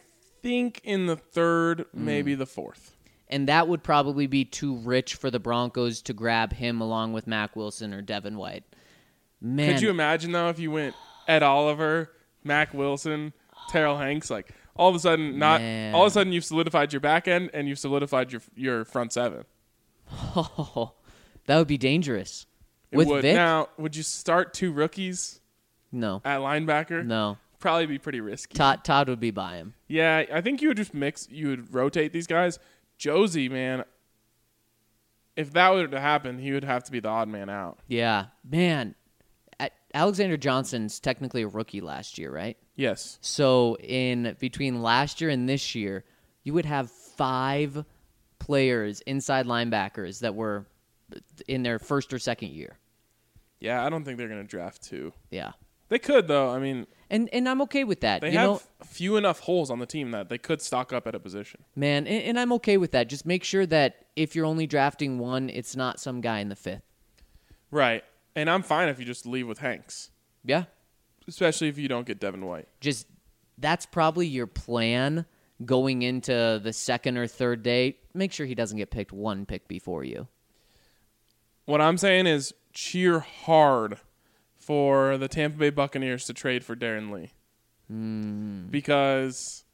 think in the third, maybe the fourth. And that would probably be too rich for the Broncos to grab him along with Mac Wilson or Devin White. Man, Could you imagine, though, if you went Ed Oliver, Mac Wilson, Terrell Hanks, like all of a sudden Man. all of a sudden you've solidified your back end and you've solidified your front seven. Oh, that would be dangerous. It With would. Vic? Now, would you start 2 rookies No. at linebacker? No. Probably be pretty risky. Todd would be by him. Yeah, I think you would just you would rotate these guys. Josie, man, if that were to happen, he would have to be the odd man out. Yeah. Man, Alexander Johnson's technically a rookie last year, right? Yes. So in between last year and this year, you would have 5 players, inside linebackers, that were in their first or second year. Yeah, I don't think they're going to draft 2. Yeah. They could, though. I mean, And I'm okay with that. they you have know, few enough holes on the team that they could stock up at a position. man, and I'm okay with that. Just make sure that if you're only drafting 1, it's not some guy in the 5th. Right. And I'm fine if you just leave with Hanks, Yeah. especially if you don't get Devin White. Just that's probably your plan going into the second or third day. Make sure he doesn't get picked 1 pick before you. What I'm saying is cheer hard for the Tampa Bay Buccaneers to trade for Darren Lee. Because,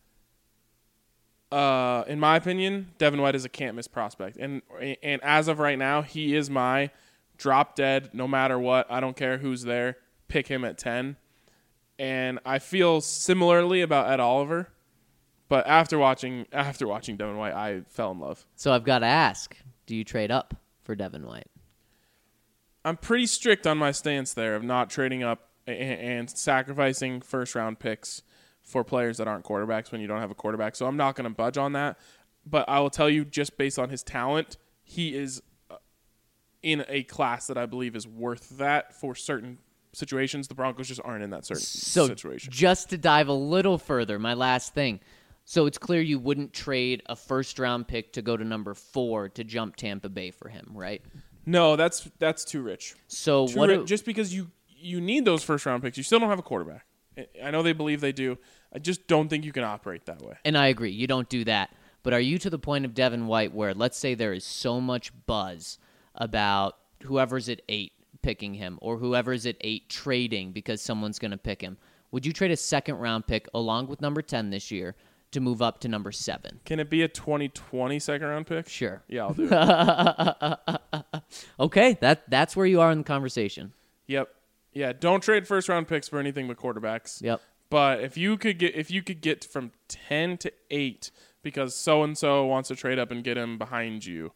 in my opinion, Devin White is a can't-miss prospect. And as of right now, he is my drop-dead, no matter what. I don't care who's there. Pick him at 10. And I feel similarly about Ed Oliver. But after watching Devin White, I fell in love. So I've got to ask, do you trade up for Devin White? I'm pretty strict on my stance there of not trading up and sacrificing first-round picks for players that aren't quarterbacks when you don't have a quarterback. So I'm not going to budge on that. But I will tell you, just based on his talent, he is in a class that I believe is worth that for certain situations. The Broncos just aren't in that certain situation. Just to dive a little further, my last thing. So it's clear you wouldn't trade a first-round pick to go to number 4 to jump Tampa Bay for him, right? No, that's too rich. So Just because you need those first-round picks, you still don't have a quarterback. I know they believe they do. I just don't think you can operate that way. And I agree, you don't do that. But are you to the point of Devin White where, let's say there is so much buzz about whoever's at 8 picking him or whoever's at 8 trading because someone's going to pick him? Would you trade a second-round pick along with number 10 this year to move up to number 7? Can it be a 2020 second-round pick? Sure. Yeah, I'll do it. Okay, that's where you are in the conversation. Yep. Yeah, don't trade first-round picks for anything but quarterbacks. Yep. But if you could get from 10 to 8 because so-and-so wants to trade up and get him behind you,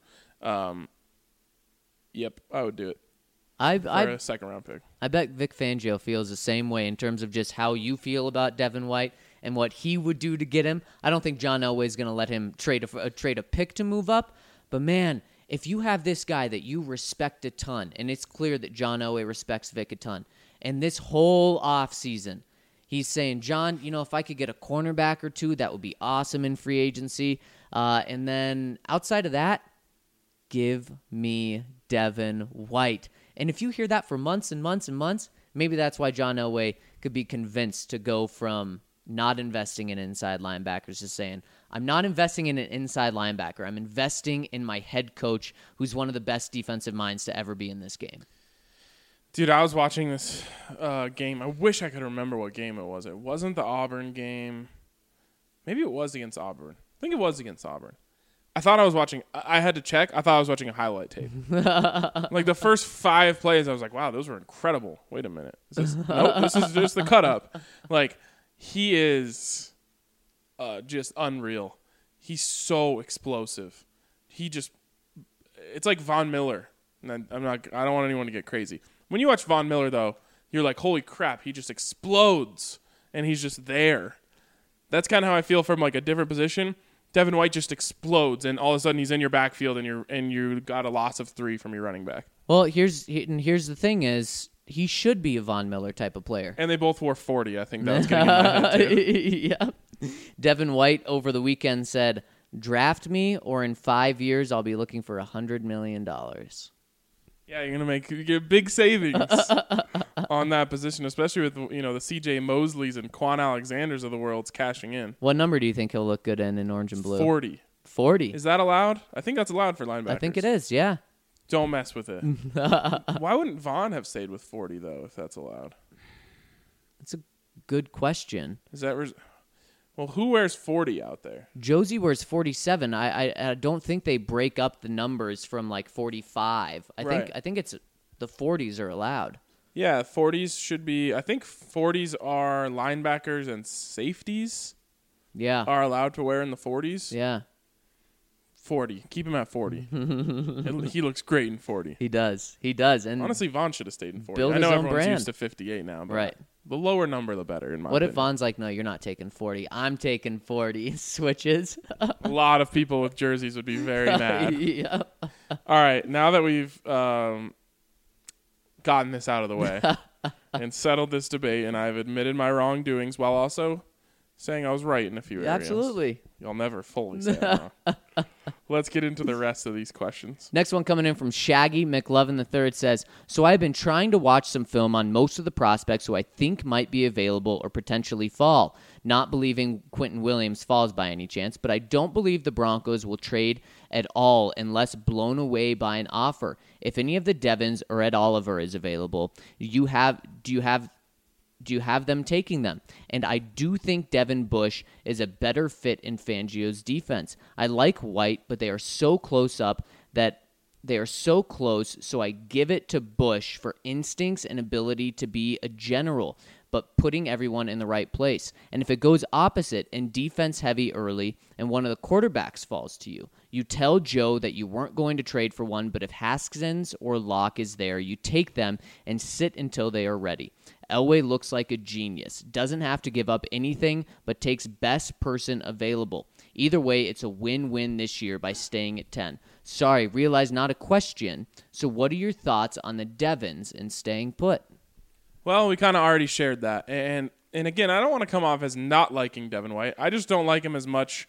yep, I would do it for a second-round pick. I bet Vic Fangio feels the same way in terms of just how you feel about Devin White and what he would do to get him. I don't think John Elway is going to let him trade a pick to move up. But, man, if you have this guy that you respect a ton, and it's clear that John Elway respects Vic a ton, and this whole offseason he's saying, John, if I could get a cornerback or 2, that would be awesome in free agency. And then outside of that, give me Devin White. And if you hear that for months and months and months, maybe that's why John Elway could be convinced to go from not investing in inside linebackers to saying, I'm not investing in an inside linebacker. I'm investing in my head coach, who's one of the best defensive minds to ever be in this game. Dude, I was watching this game. I wish I could remember what game it was. It wasn't the Auburn game. Maybe it was against Auburn. I think it was against Auburn. I thought I was watching. I had to check. I thought I was watching a highlight tape. Like the first 5 plays, I was like, wow, those were incredible. Wait a minute. Nope, this is just the cut up. Like, he is just unreal. He's so explosive. It's like Von Miller. And I don't want anyone to get crazy. When you watch Von Miller, though, you're like, holy crap, he just explodes. And he's just there. That's kind of how I feel from like a different position. Devin White just explodes, and all of a sudden he's in your backfield, and you got a loss of 3 from your running back. Well, here's the thing is, he should be a Von Miller type of player. And they both wore 40. I think that was getting in my head too. Yeah. Devin White over the weekend said, draft me, or in 5 years I'll be looking for $100 million. Yeah, you get big savings. on that position, especially with the CJ Mosleys and Quan Alexanders of the world's cashing in. What number do you think he'll look good in orange and blue? 40. 40. Is that allowed? I think that's allowed for linebackers. I think it is, yeah. Don't mess with it. Why wouldn't Vaughn have stayed with 40, though, if that's allowed? That's a good question. Is that... Well, who wears 40 out there? Josie wears 47. I don't think they break up the numbers from like 45. I think it's the 40s are allowed. Yeah, 40s should be. I think 40s are linebackers and safeties. Yeah, are allowed to wear in the 40s. Yeah, 40. Keep him at 40. He looks great in 40. He does. And honestly, Vaughn should have stayed in 40. Build I know his own everyone's brand. used to 58 now, but right. The lower number, the better, in my opinion. What if opinion. Vaughn's like, no, you're not taking 40. I'm taking 40. Switches. A lot of people with jerseys would be very mad. Yeah. All right, now that we've gotten this out of the way and settled this debate, and I've admitted my wrongdoings while also saying I was right in a few areas. Absolutely. You'll never fully say I'm wrong. Let's get into the rest of these questions. Next one coming in from Shaggy McLovin III says, so I've been trying to watch some film on most of the prospects who I think might be available or potentially fall. Not believing Quentin Williams falls by any chance, but I don't believe the Broncos will trade at all unless blown away by an offer. If any of the Devons or Ed Oliver is available, do you have them taking them? And I do think Devin Bush is a better fit in Fangio's defense. I like White, but they are so close up that they are so close, so I give it to Bush for instincts and ability to be a general, but putting everyone in the right place. And if it goes opposite and defense heavy early and one of the quarterbacks falls to you, you tell Joe that you weren't going to trade for one, but if Haskins or Locke is there, you take them and sit until they are ready. Elway looks like a genius. Doesn't have to give up anything, but takes best person available. Either way, it's a win-win this year by staying at 10. Sorry, realize not a question. So what are your thoughts on the Devons and staying put? Well, we kind of already shared that. And again, I don't want to come off as not liking Devin White. I just don't like him as much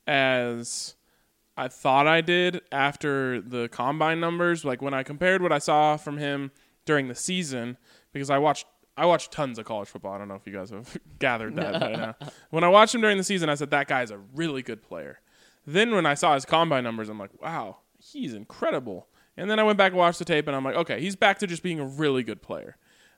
as I thought I did after the combine numbers. Like when I compared what I saw from him during the season, because I watched tons of college football. I don't know if you guys have gathered that by now. When I watched him during the season, I said, that guy's a really good player. Then when I saw his combine numbers, I'm like, wow, he's incredible. And then I went back and watched the tape, and I'm like, okay, he's back to just being a really good player.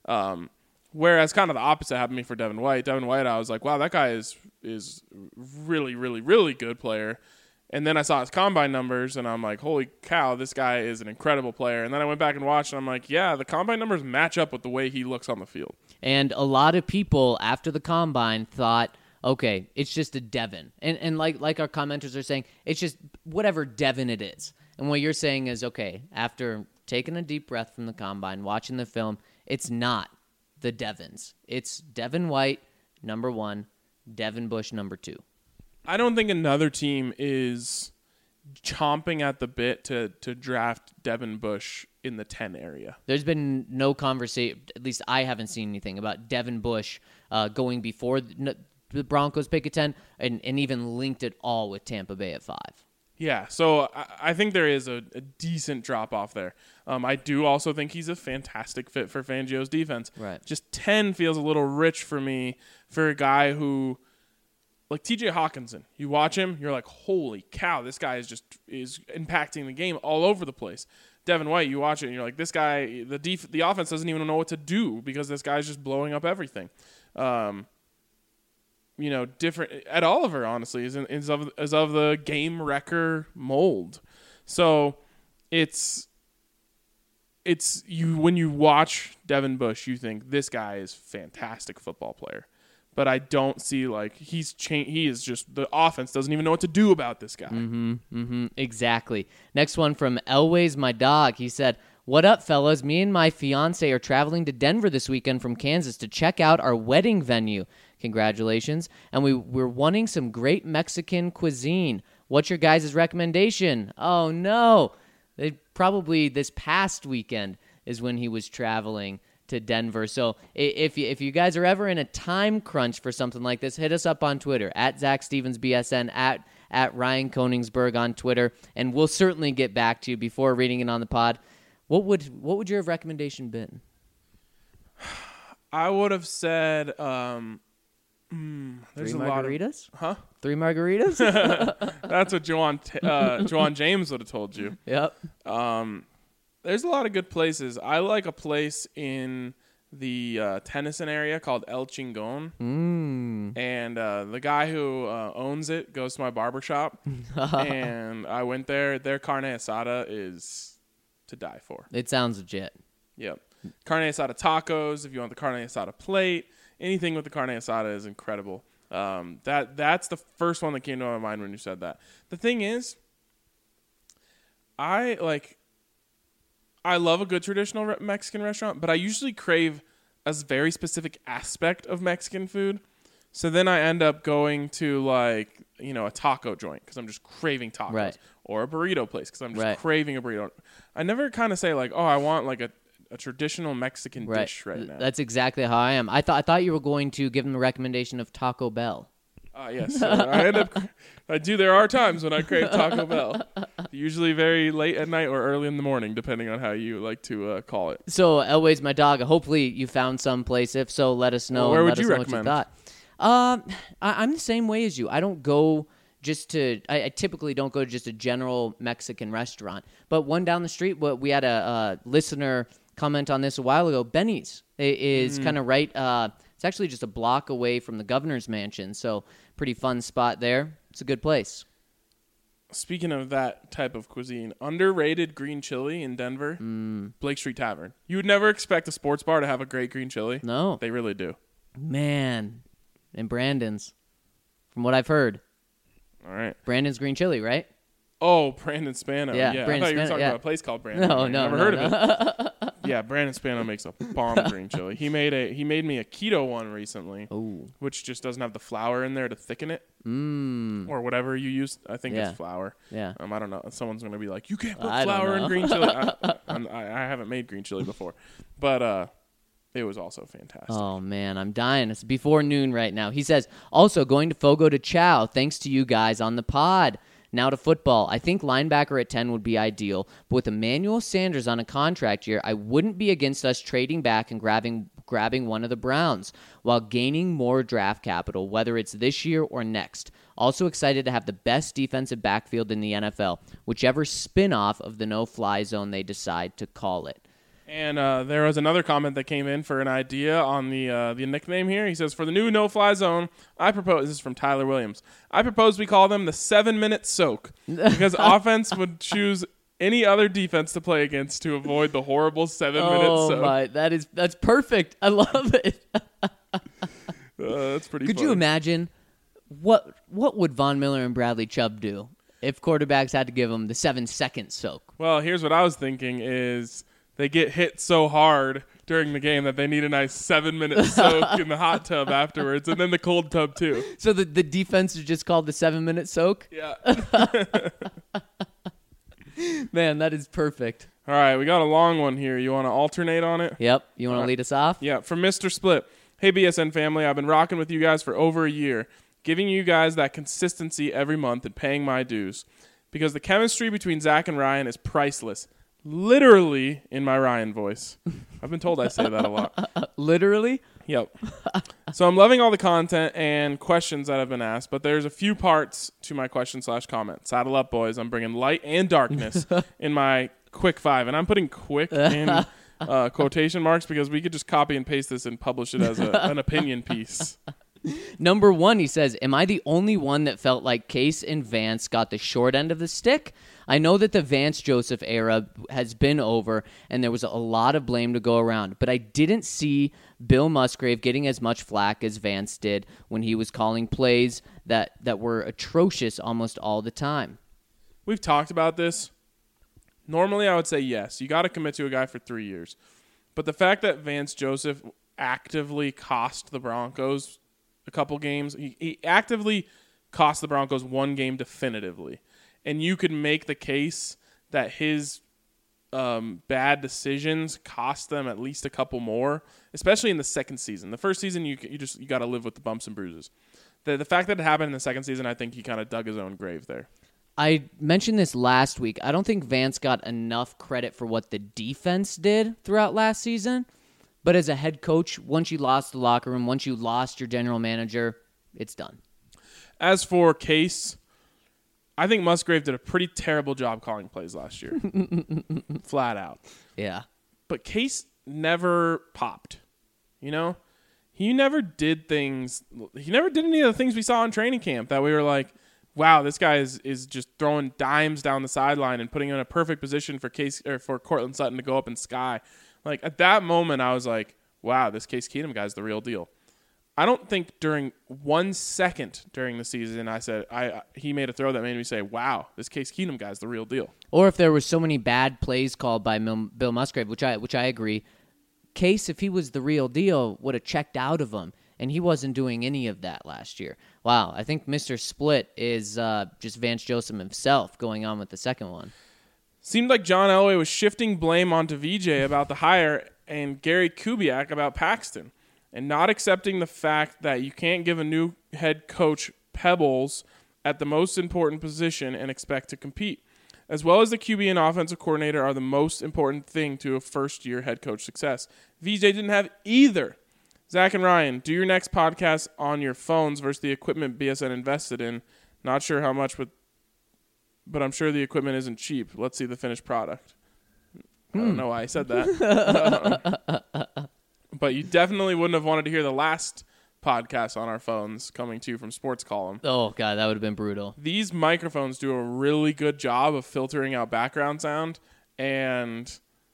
Whereas kind of the opposite happened to me for Devin White. Devin White, I was like, wow, that guy is really, really, really good player. And then I saw his combine numbers, and I'm like, holy cow, this guy is an incredible player. And then I went back and watched, and I'm like, yeah, the combine numbers match up with the way he looks on the field. And a lot of people after the combine thought, okay, it's just a Devin. And like our commenters are saying, it's just whatever Devin it is. And what you're saying is, okay, after taking a deep breath from the combine, watching the film, it's not the Devons. It's Devin White, number 1, Devin Bush, number 2. I don't think another team is chomping at the bit to draft Devin Bush in the 10 area. There's been no conversation, at least I haven't seen anything about Devin Bush going before the Broncos pick at 10 and even linked it all with Tampa Bay at 5. Yeah, so I think there is a decent drop-off there. I do also think he's a fantastic fit for Fangio's defense. Right. Just 10 feels a little rich for me for a guy who, like TJ Hawkinson, you watch him, you're like, holy cow, this guy is impacting the game all over the place. Devin White, you watch it, and you're like, this guy, the offense doesn't even know what to do because this guy's just blowing up everything. Different. Ed Oliver, honestly, is of the game wrecker mold. So it's you when you watch Devin Bush, you think this guy is a fantastic football player. But I don't see he is just, the offense doesn't even know what to do about this guy. Exactly. Next one from Elways, my dog. He said, what up, fellas? Me and my fiance are traveling to Denver this weekend from Kansas to check out our wedding venue. Congratulations. And we're wanting some great Mexican cuisine. What's your guys' recommendation? Oh, no. Probably this past weekend is when he was traveling to Denver. So if you guys are ever in a time crunch for something like this, hit us up on Twitter, at Zach Stevens BSN, at Ryan Koenigsberg on Twitter, and we'll certainly get back to you before reading it on the pod. What would your recommendation been? I would have said there's Three a lot of margaritas? huh? 3 margaritas? That's what Juwan James would have told you. Yep. There's a lot of good places. I like a place in the Tennyson area called El Chingon. And the guy who owns it goes to my barbershop. And I went there. Their carne asada is to die for. It sounds legit. Yep. Carne asada tacos, if you want the carne asada plate. Anything with the carne asada is incredible. That's the first one that came to my mind when you said that. The thing is, I love a good traditional Mexican restaurant, but I usually crave a very specific aspect of Mexican food. So then I end up going to a taco joint because I'm just craving tacos, right, or a burrito place because I'm just right, craving a burrito. I never kind of say I want a traditional Mexican right. dish right now. That's exactly how I am. I thought you were going to give them a recommendation of Taco Bell. Yes. There are times when I crave Taco Bell. Usually very late at night or early in the morning, depending on how you like to call it. So, Elway's my dog. Hopefully you found some place. If so, let us know. Well, where and would you recommend? What you thought. I'm the same way as you. I don't go I typically don't go to just a general Mexican restaurant. But one down the street, we had a listener comment on this a while ago. Benny's is kind of right. It's actually just a block away from the governor's mansion. So pretty fun spot there. It's a good place. Speaking of that type of cuisine, underrated green chili in Denver, Blake Street Tavern. You would never expect a sports bar to have a great green chili. No. They really do. Man. And Brandon's, from what I've heard. All right. Brandon's green chili, right? Oh, Brandon Spano. Yeah, I Brandon thought you were Spano, talking yeah. about a place called Brandon. No, Never heard of it. Yeah, Brandon Spano makes a bomb green chili. He made me a keto one recently, which just doesn't have the flour in there to thicken it, or whatever you use. I think it's flour. Yeah. I don't know. Someone's gonna be like, you can't put flour in green chili. I haven't made green chili before, but it was also fantastic. Oh, man, I'm dying. It's before noon right now. He says, also going to Fogo de Chao, thanks to you guys on the pod. Now to football. I think linebacker at 10 would be ideal, but with Emmanuel Sanders on a contract year, I wouldn't be against us trading back and grabbing one of the Browns while gaining more draft capital, whether it's this year or next. Also excited to have the best defensive backfield in the NFL, whichever spin-off of the no-fly zone they decide to call it. And there was another comment that came in for an idea on the nickname here. He says, for the new no-fly zone, I propose, this is from Tyler Williams, I propose we call them the 7-minute soak because offense would choose any other defense to play against to avoid the horrible 7-minute soak. My, that's perfect. I love it. That's pretty Could funny. you imagine what would Von Miller and Bradley Chubb do if quarterbacks had to give them the 7-second soak? Well, here's what I was thinking is they get hit so hard during the game that they need a nice 7-minute soak in the hot tub afterwards, and then the cold tub too. So the defense is just called the 7-minute soak? Yeah. Man, that is perfect. All right, we got a long one here. You want to alternate on it? Yep. You want to lead us off? Yeah, from Mr. Split. Hey, BSN family, I've been rocking with you guys for over a year, giving you guys that consistency every month and paying my dues. Because the chemistry between Zach and Ryan is priceless. Literally in my Ryan voice. I've been told I say that a lot. Literally? Yep. So I'm loving all the content and questions that have been asked, but there's a few parts to my question/comment. Saddle up, boys. I'm bringing light and darkness in my quick 5. And I'm putting quick in quotation marks because we could just copy and paste this and publish it as an opinion piece. Number 1, he says, am I the only one that felt like Case and Vance got the short end of the stick? I know that the Vance-Joseph era has been over, and there was a lot of blame to go around, but I didn't see Bill Musgrave getting as much flack as Vance did when he was calling plays that were atrocious almost all the time. We've talked about this. Normally, I would say yes. You got to commit to a guy for 3 years. But the fact that Vance-Joseph actively cost the Broncos a couple games, he actively cost the Broncos one game definitively. And you could make the case that his bad decisions cost them at least a couple more, especially in the second season. The first season, you got to live with the bumps and bruises. The fact that it happened in the second season, I think he kind of dug his own grave there. I mentioned this last week. I don't think Vance got enough credit for what the defense did throughout last season. But as a head coach, once you lost the locker room, once you lost your general manager, it's done. As for Case, I think Musgrave did a pretty terrible job calling plays last year. Flat out. Yeah. But Case never popped. You know? He never did things. He never did any of the things we saw in training camp that we were like, wow, this guy is just throwing dimes down the sideline and putting him in a perfect position for Case or for Cortland Sutton to go up and sky. Like, at that moment, I was like, wow, this Case Keenum guy's the real deal. I don't think during 1 second during the season I said he made a throw that made me say, wow, this Case Keenum guy's the real deal. Or if there were so many bad plays called by Bill Musgrave, which I agree, Case, if he was the real deal, would have checked out of him, and he wasn't doing any of that last year. Wow, I think Mr. Split is just Vance Joseph himself going on with the second one. Seemed like John Elway was shifting blame onto VJ about the hire and Gary Kubiak about Paxton, and not accepting the fact that you can't give a new head coach pebbles at the most important position and expect to compete. As well as the QB and offensive coordinator are the most important thing to a first-year head coach success. VJ didn't have either. Zach and Ryan, do your next podcast on your phones versus the equipment BSN invested in. Not sure how much, but I'm sure the equipment isn't cheap. Let's see the finished product. I don't know why I said that. But you definitely wouldn't have wanted to hear the last podcast on our phones coming to you from Sports Column. Oh, God, that would have been brutal. These microphones do a really good job of filtering out background sound, and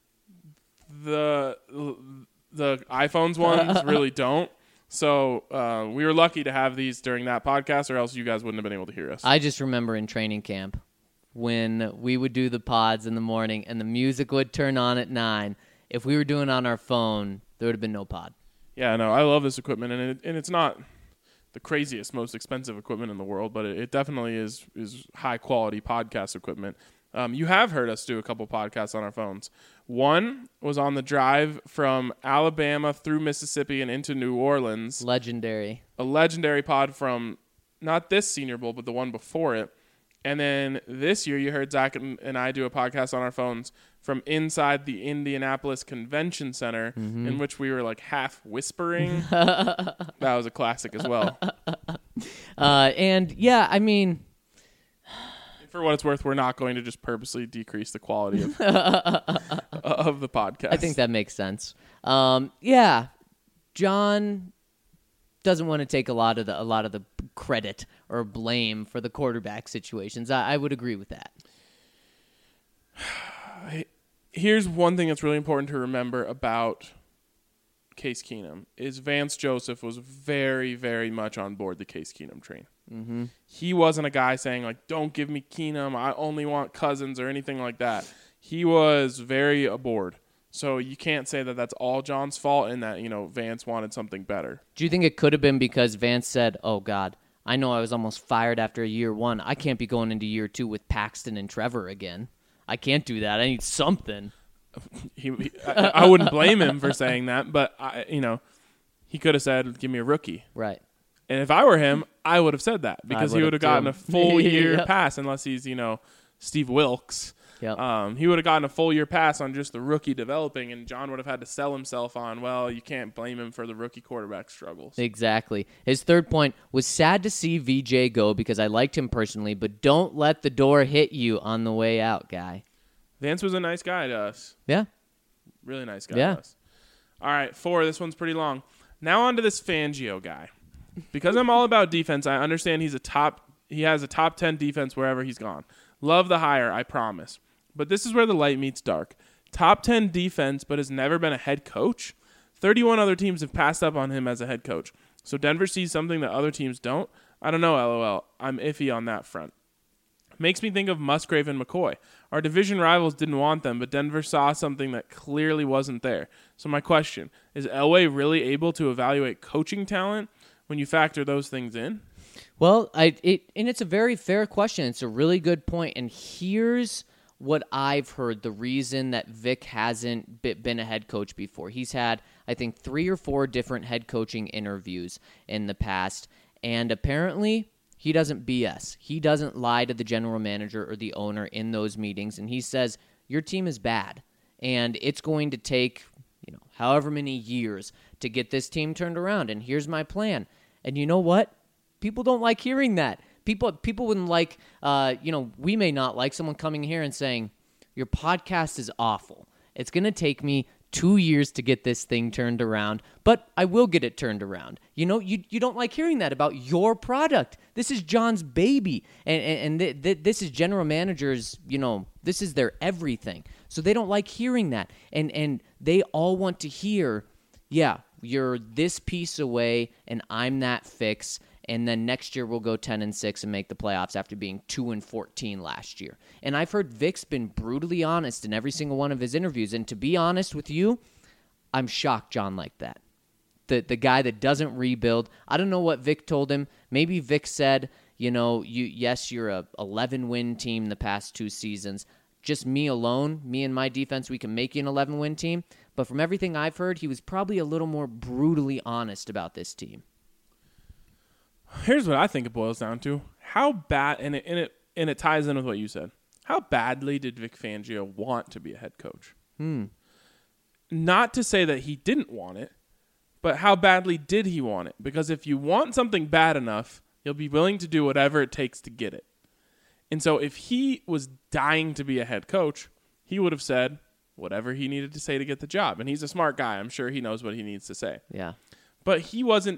the iPhones ones really don't. So we were lucky to have these during that podcast, or else you guys wouldn't have been able to hear us. I just remember in training camp when we would do the pods in the morning and the music would turn on at 9. If we were doing it on our phone, there would have been no pod. Yeah, no, I love this equipment, and it's not the craziest, most expensive equipment in the world, but it definitely is high-quality podcast equipment. You have heard us do a couple podcasts on our phones. One was on the drive from Alabama through Mississippi and into New Orleans. Legendary. A legendary pod from not this Senior Bowl, but the one before it. And then this year, you heard Zach and I do a podcast on our phones from inside the Indianapolis Convention Center, in which we were like half whispering. That was a classic as well. And yeah, I mean, for what it's worth, we're not going to just purposely decrease the quality of the podcast. I think that makes sense. Yeah, John doesn't want to take a lot of the credit or blame for the quarterback situations. I would agree with that. Here's one thing that's really important to remember about Case Keenum is Vance Joseph was very, very much on board the Case Keenum train. Mm-hmm. He wasn't a guy saying, like, don't give me Keenum, I only want Cousins or anything like that. He was very aboard. So you can't say that that's all John's fault and that, Vance wanted something better. Do you think it could have been because Vance said, oh, God, I know I was almost fired after year 1. I can't be going into year 2 with Paxton and Trevor again. I can't do that. I need something. I wouldn't blame him for saying that, but he could have said, give me a rookie. Right. And if I were him, I would have said that because he would have gotten a full year pass unless he's, Steve Wilkes. Yep. He would have gotten a full year pass on just the rookie developing, and John would have had to sell himself on, well, you can't blame him for the rookie quarterback struggles. Exactly. His third point was sad to see VJ go because I liked him personally, but don't let the door hit you on the way out, guy. Vance was a nice guy to us. Yeah. Really nice guy to us. All right, 4. This one's pretty long. Now on to this Fangio guy. Because I'm all about defense, I understand he has a top 10 defense wherever he's gone. Love the hire, I promise. But this is where the light meets dark. Top 10 defense, but has never been a head coach? 31 other teams have passed up on him as a head coach. So Denver sees something that other teams don't? I don't know, LOL. I'm iffy on that front. Makes me think of Musgrave and McCoy. Our division rivals didn't want them, but Denver saw something that clearly wasn't there. So my question, is Elway really able to evaluate coaching talent when you factor those things in? Well, it's a very fair question. It's a really good point. And here's what I've heard, the reason that Vic hasn't been a head coach before. He's had, I think, 3 or 4 different head coaching interviews in the past, and apparently he doesn't BS. He doesn't lie to the general manager or the owner in those meetings, and he says, your team is bad, and it's going to take however many years to get this team turned around, and here's my plan. And you know what? People don't like hearing that. People wouldn't like, we may not like someone coming here and saying, your podcast is awful. It's going to take me 2 years to get this thing turned around, but I will get it turned around. You don't like hearing that about your product. This is John's baby, and this is general managers, this is their everything. So they don't like hearing that, and they all want to hear, yeah, you're this piece away, and I'm that fix, and then next year we'll go 10-6 and make the playoffs after being 2-14 last year. And I've heard Vic's been brutally honest in every single one of his interviews, and to be honest with you, I'm shocked John liked that. The guy that doesn't rebuild. I don't know what Vic told him. Maybe Vic said, you're a 11-win team the past 2 seasons. Just me alone, me and my defense, we can make you an 11-win team. But from everything I've heard, he was probably a little more brutally honest about this team. Here's what I think it boils down to: how bad, and it ties in with what you said. How badly did Vic Fangio want to be a head coach? Not to say that he didn't want it, but how badly did he want it? Because if you want something bad enough, you'll be willing to do whatever it takes to get it. And so if he was dying to be a head coach, he would have said whatever he needed to say to get the job. And he's a smart guy. I'm sure he knows what he needs to say. Yeah. But he wasn't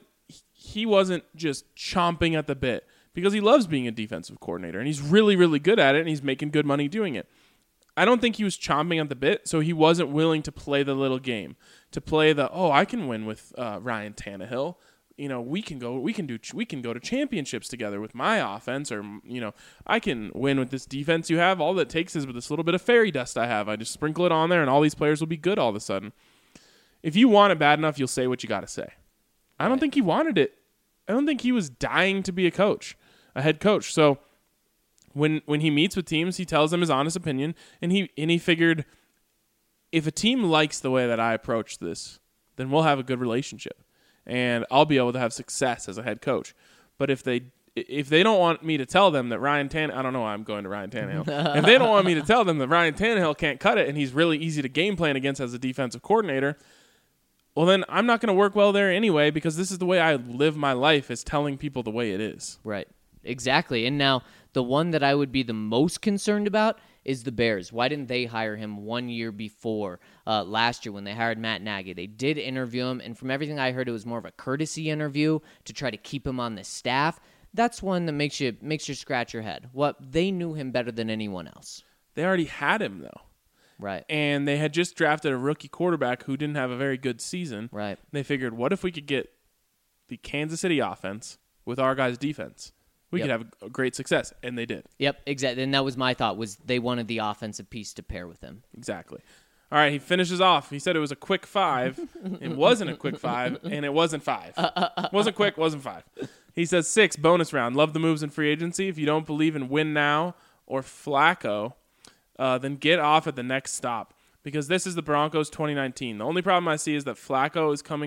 just chomping at the bit, because he loves being a defensive coordinator, and he's really, really good at it, and he's making good money doing it. I don't think he was chomping at the bit, so he wasn't willing to play the little game, to play I can win with Ryan Tannehill. We can go to championships together with my offense, or I can win with this defense you have. All that takes is with this little bit of fairy dust I have. I just sprinkle it on there, and all these players will be good all of a sudden. If you want it bad enough, you'll say what you got to say. I don't think he wanted it. I don't think he was dying to be a head coach. So when he meets with teams, he tells them his honest opinion, and he figured, if a team likes the way that I approach this, then we'll have a good relationship, and I'll be able to have success as a head coach. But if they don't want me to tell them that Ryan Tannehill, I don't know why I'm going to Ryan Tannehill. If they don't want me to tell them that Ryan Tannehill can't cut it and he's really easy to game plan against as a defensive coordinator, well, then I'm not going to work well there anyway, because this is the way I live my life, is telling people the way it is. Right. Exactly. And now the one that I would be the most concerned about is the Bears. Why didn't they hire him 1 year before last year when they hired Matt Nagy? They did interview him, and from everything I heard, it was more of a courtesy interview to try to keep him on the staff. That's one that makes you scratch your head. They knew him better than anyone else. They already had him, though. Right. And they had just drafted a rookie quarterback who didn't have a very good season. Right. They figured, what if we could get the Kansas City offense with our guys' defense? We could have a great success, and they did. Yep, exactly. And that was my thought, was they wanted the offensive piece to pair with him. Exactly. All right, he finishes off. He said it was a quick 5. It wasn't a quick 5, and it wasn't 5. Wasn't quick, wasn't 5. He says 6, bonus round. Love the moves in free agency. If you don't believe in win now or Flacco, then get off at the next stop, because this is the Broncos 2019. The only problem I see is that Flacco is coming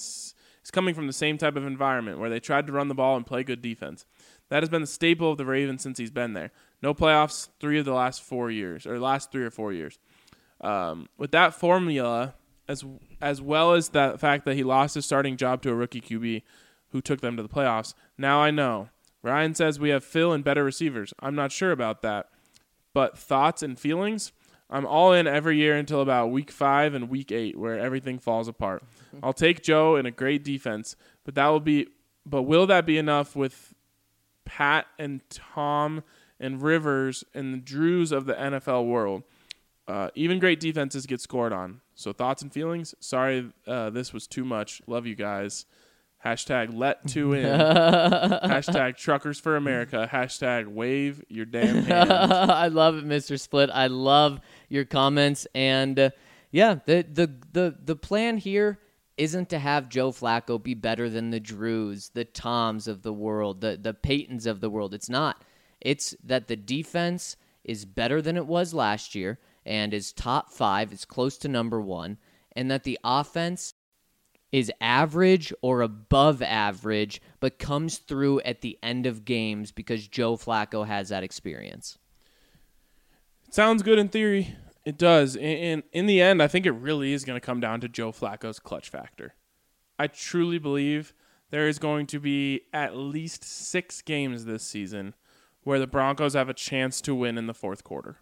from the same type of environment where they tried to run the ball and play good defense. That has been the staple of the Ravens since he's been there. No playoffs 3 of the last 4 years, or last 3 or 4 years. With that formula, as well as the fact that he lost his starting job to a rookie QB who took them to the playoffs, now I know. Ryan says we have Phil and better receivers. I'm not sure about that. But thoughts and feelings, I'm all in every year until about week 5 and week 8, where everything falls apart. I'll take Joe and a great defense, but will that be enough with Pat and Tom and Rivers and the Drews of the NFL world? Even great defenses get scored on. So thoughts and feelings? Sorry, this was too much. Love you guys. Hashtag let 2 in. Hashtag truckers for America. Hashtag wave your damn hand. I love it, Mr. Split. I love your comments. And the plan here isn't to have Joe Flacco be better than the Drews, the Toms of the world, the Peytons of the world. It's not. It's that the defense is better than it was last year and is top 5, is close to number 1, and that the offense is average or above average, but comes through at the end of games because Joe Flacco has that experience. Sounds good in theory. It does. In the end, I think it really is going to come down to Joe Flacco's clutch factor. I truly believe there is going to be at least 6 games this season where the Broncos have a chance to win in the fourth quarter.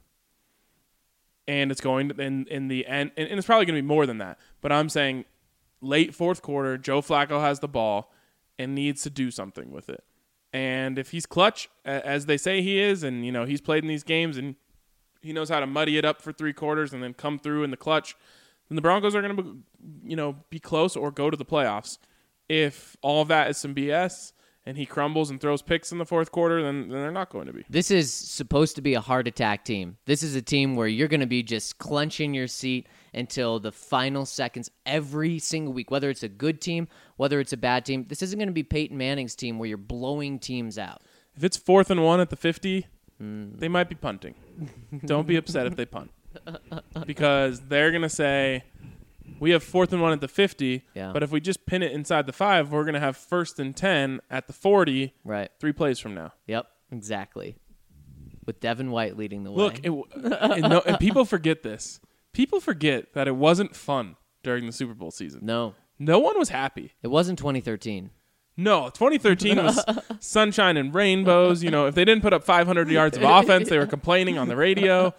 And it's going to, in the end, and it's probably going to be more than that. But I'm saying late fourth quarter, Joe Flacco has the ball and needs to do something with it. And if he's clutch, as they say he is, and he's played in these games and he knows how to muddy it up for 3 quarters and then come through in the clutch, then the Broncos are going to be close or go to the playoffs. If all of that is some BS and he crumbles and throws picks in the fourth quarter, then they're not going to be. This is supposed to be a heart attack team. This is a team where you're going to be just clenching your seat until the final seconds every single week, whether it's a good team, whether it's a bad team. This isn't going to be Peyton Manning's team where you're blowing teams out. If it's 4th and 1 at the 50, they might be punting. Don't be upset if they punt. Because they're going to say, we have 4th and 1 at the 50, but if we just pin it inside the 5, we're going to have 1st and 10 at the 40, right? 3 plays from now. Yep, exactly. With Devin White leading the way. Look, and people forget this. People forget that it wasn't fun during the Super Bowl season. No one was happy. It wasn't 2013. No, 2013 was sunshine and rainbows. If they didn't put up 500 yards of offense, they were complaining on the radio.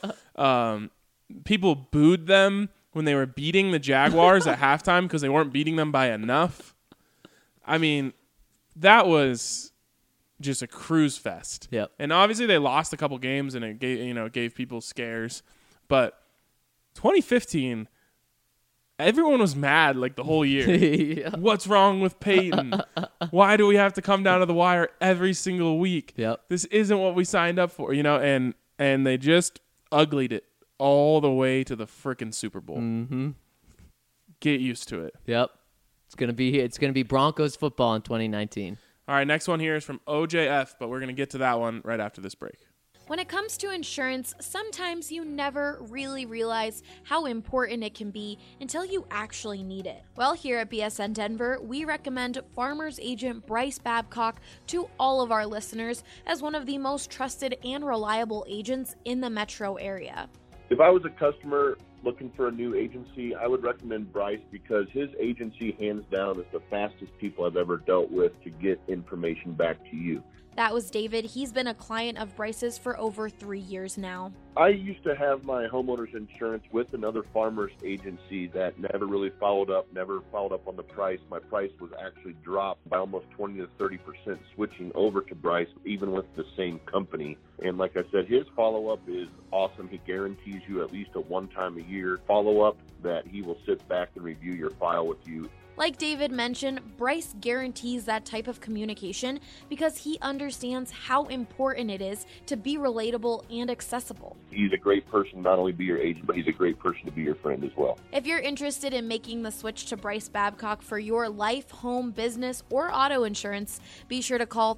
People booed them when they were beating the Jaguars at halftime because they weren't beating them by enough. I mean, that was just a cruise fest. Yep. And obviously they lost a couple games and it gave people scares. But 2015, everyone was mad like the whole year. Yeah. What's wrong with Peyton? Why do we have to come down to the wire every single week? Yep. This isn't what we signed up for, and they just uglied it all the way to the frickin' Super Bowl. Mm-hmm. Get used to it. Yep. It's gonna be Broncos football in 2019. All right, next one here is from OJF, but we're gonna get to that one right after this break. When it comes to insurance, sometimes you never really realize how important it can be until you actually need it. Well, here at BSN Denver, we recommend Farmers Agent Bryce Babcock to all of our listeners as one of the most trusted and reliable agents in the metro area. If I was a customer looking for a new agency, I would recommend Bryce because his agency, hands down, is the fastest people I've ever dealt with to get information back to you. That was David. He's been a client of Bryce's for over 3 years now. I used to have my homeowner's insurance with another farmer's agency that never really followed up on the price. My price was actually dropped by almost 20 to 30% switching over to Bryce, even with the same company. And like I said, his follow-up is awesome. He guarantees you at least a one-time-a-year follow-up that he will sit back and review your file with you. Like David mentioned, Bryce guarantees that type of communication because he understands how important it is to be relatable and accessible. He's a great person not only to be your agent, but he's a great person to be your friend as well. If you're interested in making the switch to Bryce Babcock for your life, home, business, or auto insurance, be sure to call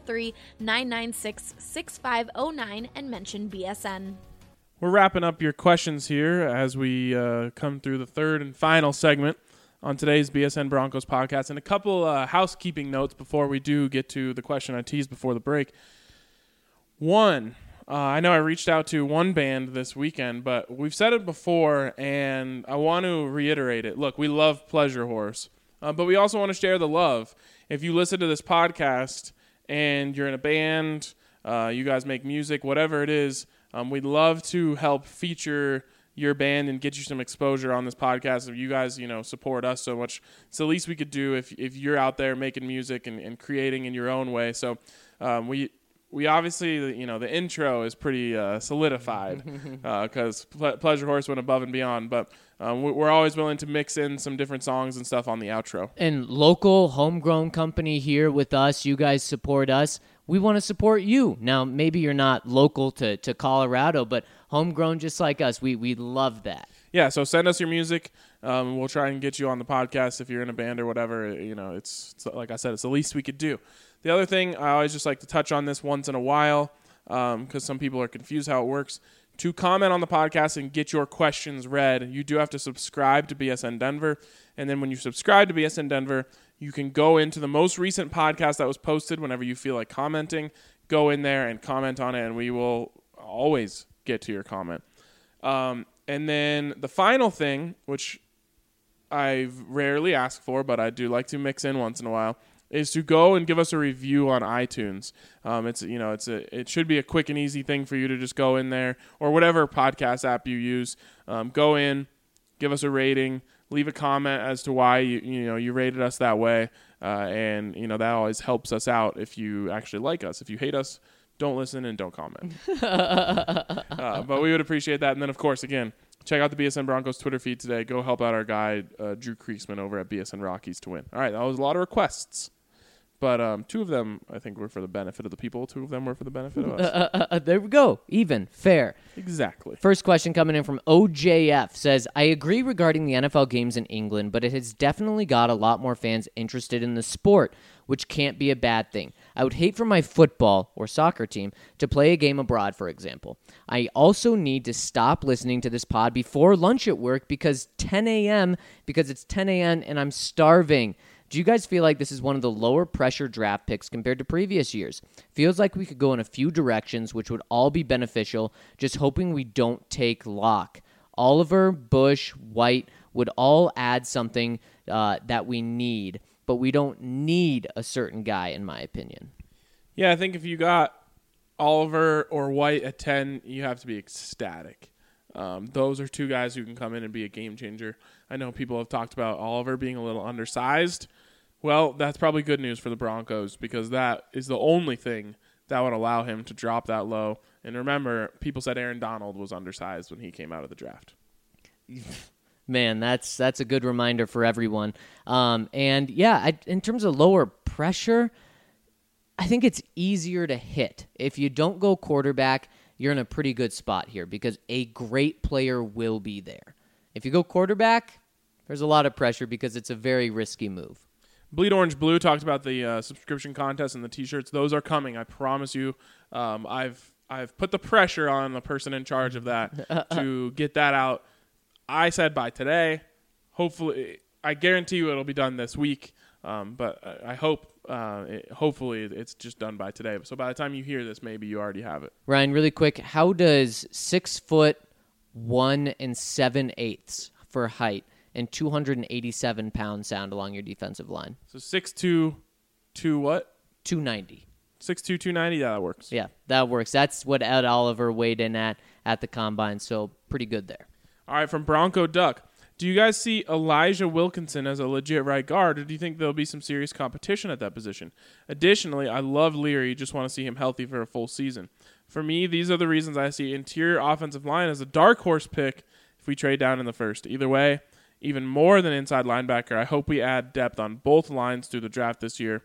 303-996-6509 and mention BSN. We're wrapping up your questions here as we come through the third and final segment on today's BSN Broncos podcast. And a couple housekeeping notes before we do get to the question I teased before the break. One, I know I reached out to one band this weekend, but we've said it before, and I want to reiterate it. Look, we love Pleasure Horse, but we also want to share the love. If you listen to this podcast and you're in a band, you guys make music, whatever it is, we'd love to help feature your band and get you some exposure on this podcast. If you guys, support us so much, it's the least we could do if you're out there making music and creating in your own way. So we obviously, the intro is pretty solidified because Pleasure Horse went above and beyond. But we're always willing to mix in some different songs and stuff on the outro. And local homegrown company here with us. You guys support us. We want to support you. Now, maybe you're not local to Colorado, but homegrown just like us. We love that. Yeah, so send us your music. We'll try and get you on the podcast if you're in a band or whatever. It's like I said, it's the least we could do. The other thing, I always just like to touch on this once in a while because some people are confused how it works. To comment on the podcast and get your questions read, you do have to subscribe to BSN Denver. And then when you subscribe to BSN Denver, you can go into the most recent podcast that was posted whenever you feel like commenting. Go in there and comment on it, and we will always get to your comment. And And then the final thing, which I rarely ask for, but I do like to mix in once in a while, is to go and give us a review on iTunes. It should be a quick and easy thing for you to just go in there or whatever podcast app you use. Go in, give us a rating, leave a comment as to why you rated us that way, and that always helps us out if you actually like us. If you hate us, don't listen and don't comment. But we would appreciate that. And then, of course, again, check out the BSN Broncos Twitter feed today. Go help out our guy, Drew Kriesman, over at BSN Rockies to win. All right, that was a lot of requests. But 2 of them, I think, were for the benefit of the people. 2 of them were for the benefit of us. There we go. Even. Fair. Exactly. First question coming in from OJF says, I agree regarding the NFL games in England, but it has definitely got a lot more fans interested in the sport, which can't be a bad thing. I would hate for my football or soccer team to play a game abroad, for example. I also need to stop listening to this pod before lunch at work because it's 10 a.m. and I'm starving. Do you guys feel like this is one of the lower pressure draft picks compared to previous years? Feels like we could go in a few directions, which would all be beneficial, just hoping we don't take Locke. Oliver, Bush, White would all add something that we need, but we don't need a certain guy, in my opinion. Yeah, I think if you got Oliver or White at 10, you have to be ecstatic. Those are 2 guys who can come in and be a game changer. I know people have talked about Oliver being a little undersized. Well, that's probably good news for the Broncos because that is the only thing that would allow him to drop that low. And remember, people said Aaron Donald was undersized when he came out of the draft. Man, that's a good reminder for everyone. In terms of lower pressure, I think it's easier to hit. If you don't go quarterback, you're in a pretty good spot here because a great player will be there. If you go quarterback, there's a lot of pressure because it's a very risky move. Bleed Orange Blue talked about the subscription contest and the T-shirts. Those are coming. I promise you. I've put the pressure on the person in charge of that to get that out. I said by today. Hopefully, I guarantee you it'll be done this week. But I hope, hopefully, it's just done by today. So by the time you hear this, maybe you already have it. Ryan, really quick, how does 6'1" and 7/8 for height and 287 pounds sound along your defensive line? So 6'2", what? 290. 6'2", 290. Yeah, that works. Yeah, that works. That's what Ed Oliver weighed in at the combine. So pretty good there. All right, from Bronco Duck. Do you guys see Elijah Wilkinson as a legit right guard, or do you think there'll be some serious competition at that position? Additionally, I love Leary. Just want to see him healthy for a full season. For me, these are the reasons I see interior offensive line as a dark horse pick if we trade down in the first. Either way, even more than inside linebacker, I hope we add depth on both lines through the draft this year.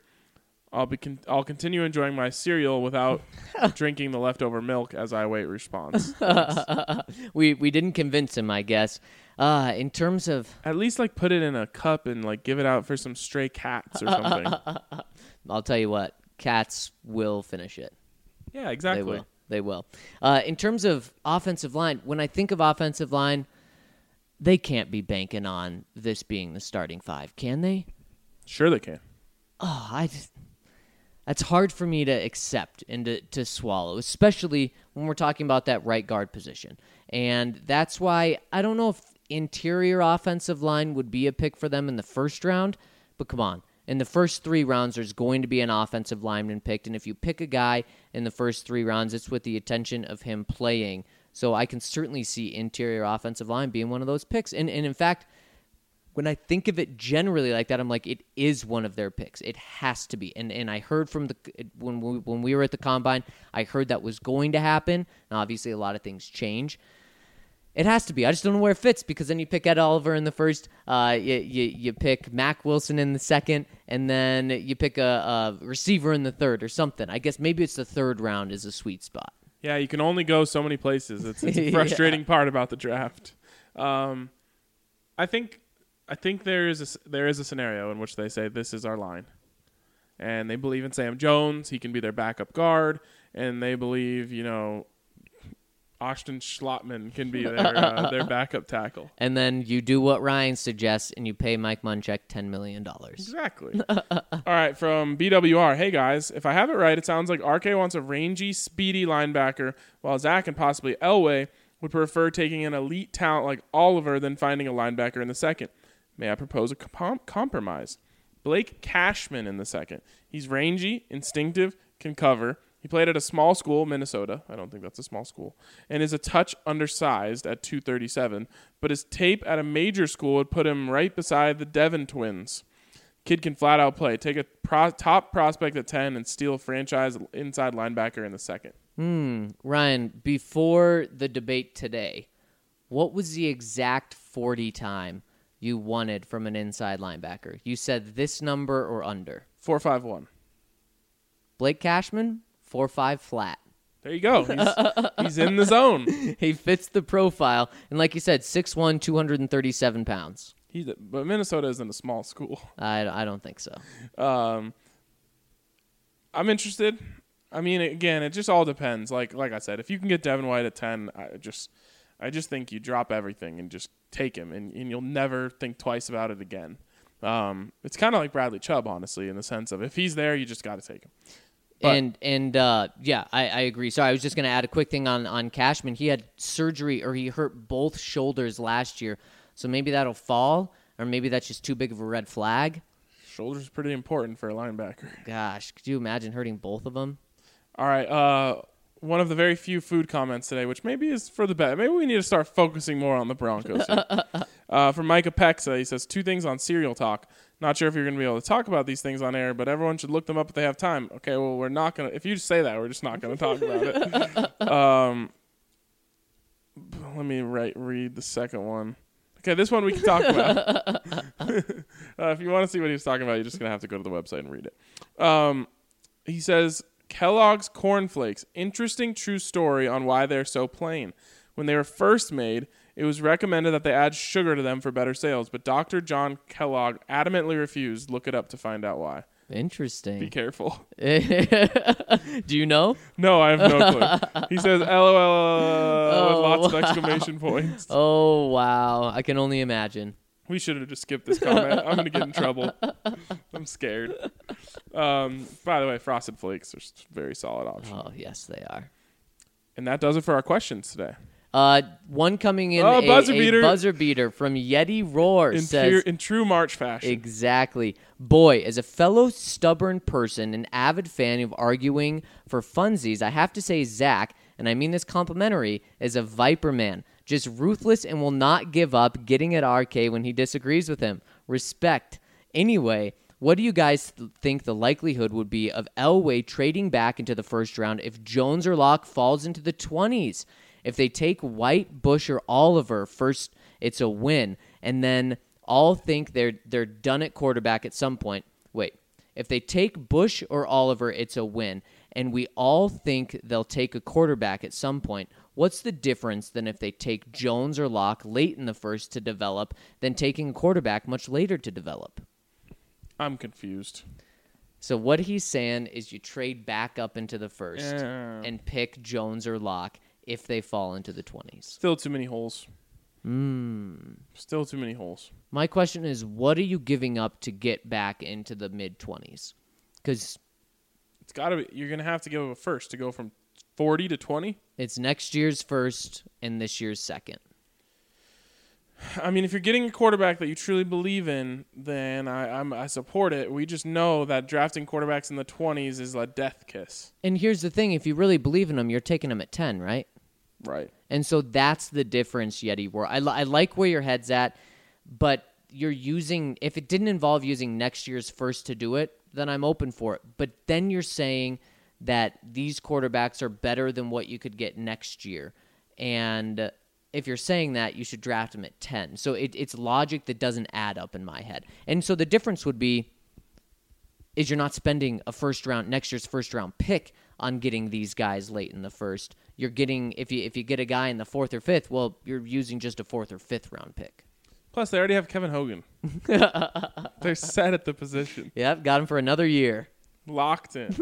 I'll continue enjoying my cereal without drinking the leftover milk as I await response. We didn't convince him, I guess. In terms of... At least put it in a cup and give it out for some stray cats or something. I'll tell you what, cats will finish it. Yeah, exactly. They will. In terms of offensive line, when I think of offensive line, they can't be banking on this being the starting 5, can they? Sure they can. Oh, that's hard for me to accept and to swallow, especially when we're talking about that right guard position. And that's why I don't know if interior offensive line would be a pick for them in the first round, but come on. In the first 3 rounds, there's going to be an offensive lineman picked, and if you pick a guy in the first 3 rounds, it's with the attention of him playing. So I can certainly see interior offensive line being one of those picks. And in fact, when I think of it generally like that, I'm like, it is one of their picks. It has to be. And I heard from when we were at the Combine, I heard that was going to happen. Now, obviously, a lot of things change. It has to be. I just don't know where it fits because then you pick Ed Oliver in the first, you pick Mack Wilson in the second, and then you pick a receiver in the third or something. I guess maybe it's the third round is a sweet spot. Yeah, you can only go so many places. It's a frustrating part about the draft. I think there is a scenario in which they say this is our line, and they believe in Sam Jones. He can be their backup guard, and they believe Austin Schlottman can be their backup tackle. And then you do what Ryan suggests, and you pay Mike Munchak $10 million. Exactly. All right, from BWR. Hey, guys. If I have it right, it sounds like RK wants a rangy, speedy linebacker, while Zach and possibly Elway would prefer taking an elite talent like Oliver than finding a linebacker in the second. May I propose a compromise? Blake Cashman in the second. He's rangy, instinctive, can cover. He played at a small school, Minnesota. I don't think that's a small school. And is a touch undersized at 237. But his tape at a major school would put him right beside the Devon twins. Kid can flat out play. Take a top prospect at 10 and steal a franchise inside linebacker in the second. Ryan, before the debate today, what was the exact 40 time you wanted from an inside linebacker? You said this number or under. 4.51. Blake Cashman, 4.5 flat. There you go. He's in the zone. He fits the profile. And like you said, 6'1", 237 pounds. But Minnesota isn't a small school. I don't think so. I'm interested. I mean, again, it just all depends. Like I said, if you can get Devin White at 10, I just think you drop everything and just take him, and you'll never think twice about it again. It's kind of like Bradley Chubb, honestly, in the sense of if he's there, you just got to take him. But, I agree. So I was just going to add a quick thing on Cashman. He had surgery, or he hurt both shoulders last year. So maybe that'll fall, or maybe that's just too big of a red flag. Shoulders pretty important for a linebacker. Gosh, could you imagine hurting both of them? All right, one of the very few food comments today, which maybe is for the best. Maybe we need to start focusing more on the Broncos here. From Micah Pexa, he says, 2 things on Serial Talk. Not sure if you're going to be able to talk about these things on air, but everyone should look them up if they have time. Okay, well, we're not going to. If you say that, we're just not going to talk about it. Let me read the second one. Okay, this one we can talk about. If you want to see what he was talking about, you're just going to have to go to the website and read it. He says, Kellogg's Corn Flakes. Interesting true story on why they're so plain. When they were first made, it was recommended that they add sugar to them for better sales, but Dr. John Kellogg adamantly refused. Look it up to find out why. Interesting. Be careful. Do you know? No, I have no clue. He says, LOL, with lots of exclamation points. Oh, wow. I can only imagine. We should have just skipped this comment. I'm going to get in trouble. I'm scared. By the way, Frosted Flakes are a very solid option. Oh, yes, they are. And that does it for our questions today. One coming in, buzzer beater from Yeti Roar says, in true March fashion. Exactly. Boy, as a fellow stubborn person, an avid fan of arguing for funsies, I have to say Zach, and I mean this complimentary, is a Viper man. Just ruthless and will not give up getting at RK when he disagrees with him. Respect. Anyway, what do you guys think the likelihood would be of Elway trading back into the first round if Jones or Locke falls into the 20s? If they take White, Bush, or Oliver first, it's a win. And then all think they're done at quarterback at some point. Wait. If they take Bush or Oliver, it's a win. And we all think they'll take a quarterback at some point. What's the difference than if they take Jones or Locke late in the first to develop than taking a quarterback much later to develop? I'm confused. So what he's saying is you trade back up into the first and pick Jones or Locke if they fall into the 20s. Still too many holes. Still too many holes. My question is, what are you giving up to get back into the mid-20s? Because it's got to be. You're going to have to give up a first to go from 40 to 20. It's next year's first and this year's second. I mean, if you're getting a quarterback that you truly believe in, then I support it. We just know that drafting quarterbacks in the 20s is a death kiss. And here's the thing. If you really believe in them, you're taking them at 10, right? Right. And so that's the difference, Yeti. Where I like where your head's at, but you're using, if it didn't involve using next year's first to do it, then I'm open for it. But then you're saying that these quarterbacks are better than what you could get next year. And if you're saying that, you should draft them at 10. So it's logic that doesn't add up in my head. And so the difference would be is you're not spending next year's first round pick on getting these guys late in the first. You're getting, if you get a guy in the 4th or 5th, well, you're using just a 4th or 5th round pick. Plus, they already have Kevin Hogan. They're set at the position. Yep, got him for another year. Locked in.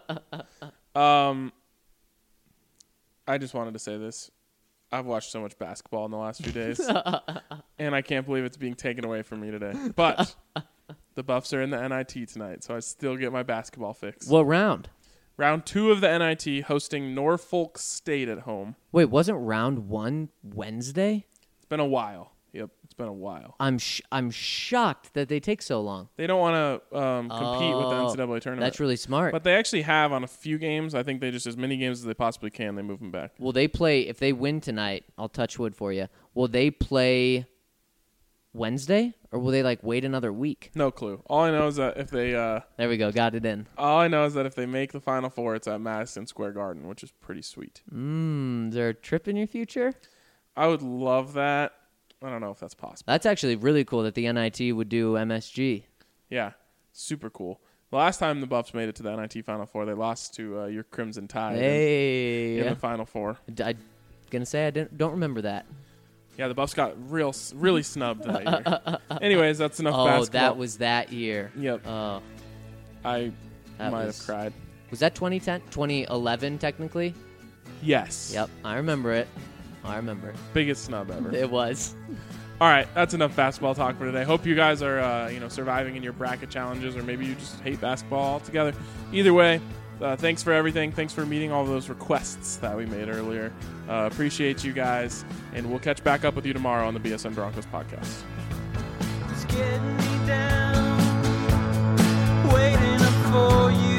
I just wanted to say this. I've watched so much basketball in the last few days, and I can't believe it's being taken away from me today. But the Buffs are in the NIT tonight, so I still get my basketball fix. What round? Round 2 of the NIT hosting Norfolk State at home. Wait, wasn't round 1 Wednesday? It's been a while. Yep, it's been a while. I'm shocked that they take so long. They don't want to compete with the NCAA tournament. That's really smart. But they actually have on a few games. I think they just, as many games as they possibly can, they move them back. Will they play, if they win tonight, I'll touch wood for you, will they play Wednesday? Or will they, wait another week? No clue. All I know is that if they... there we go, got it in. All I know is that if they make the Final Four, it's at Madison Square Garden, which is pretty sweet. Is there a trip in your future? I would love that. I don't know if that's possible. That's actually really cool that the NIT would do MSG. Yeah, super cool. The last time the Buffs made it to the NIT Final Four, they lost to your Crimson Tide in the Final Four. I'm going to say I don't remember that. Yeah, the Buffs got really snubbed that year. Anyways, that's enough basketball. Oh, that was that year. Yep. Oh. I might have cried. Was that 2010? 2011, technically? Yes. Yep, I remember it. Biggest snub ever. It was. All right, that's enough basketball talk for today. Hope you guys are surviving in your bracket challenges, or maybe you just hate basketball altogether. Either way, thanks for everything. Thanks for meeting all those requests that we made earlier. Appreciate you guys, and we'll catch back up with you tomorrow on the BSN Broncos podcast. It's getting me down, waiting up for you.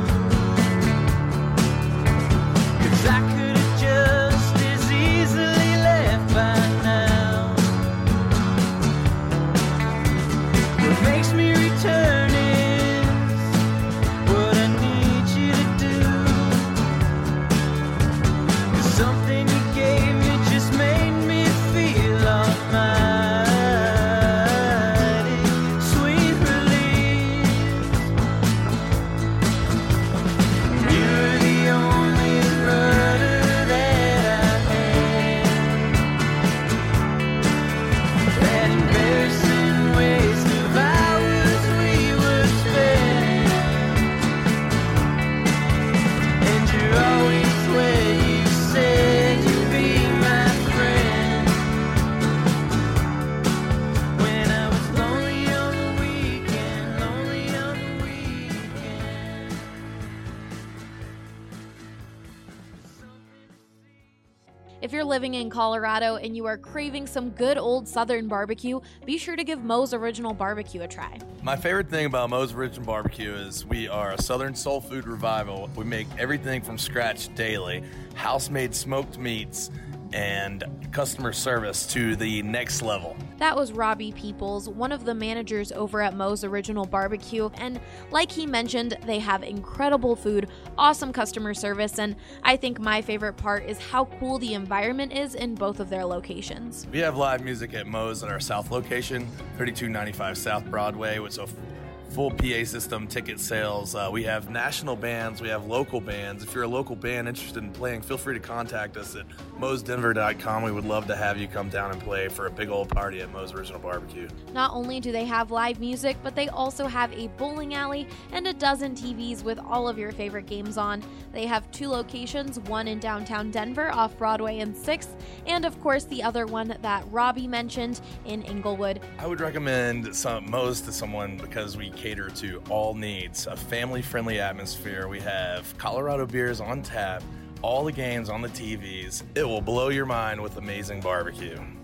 'Cause I could have just as easily left by now. What makes me return is what I need you to do. 'Cause something you gave me just made me feel almighty. Sweet relief. You're the only brother that I had. That embarrassing waste of hours we would spend. And you're always where you said you'd be my friend. When I was lonely on the weekend. If you're living in Colorado and you are craving some good old Southern barbecue, be sure to give Moe's Original Barbecue a try. My favorite thing about Moe's Original Barbecue is we are a Southern soul food revival. We make everything from scratch daily, house-made smoked meats, and customer service to the next level. That was Robbie Peoples, one of the managers over at Moe's Original Barbecue, and like he mentioned, they have incredible food, awesome customer service, and I think my favorite part is how cool the environment is in both of their locations. We have live music at Moe's at our south location, 3295 South Broadway, with a full PA system, ticket sales. We have national bands, we have local bands. If you're a local band interested in playing, feel free to contact us at moesdenver.com. We would love to have you come down and play for a big old party at Moe's Original Barbecue. Not only do they have live music, but they also have a bowling alley and a dozen TVs with all of your favorite games on. They have 2 locations, one in downtown Denver off Broadway and 6th, and of course the other one that Robbie mentioned in Inglewood. I would recommend Moe's to someone because we cater to all needs, a family-friendly atmosphere. We have Colorado beers on tap, all the games on the TVs. It will blow your mind with amazing barbecue.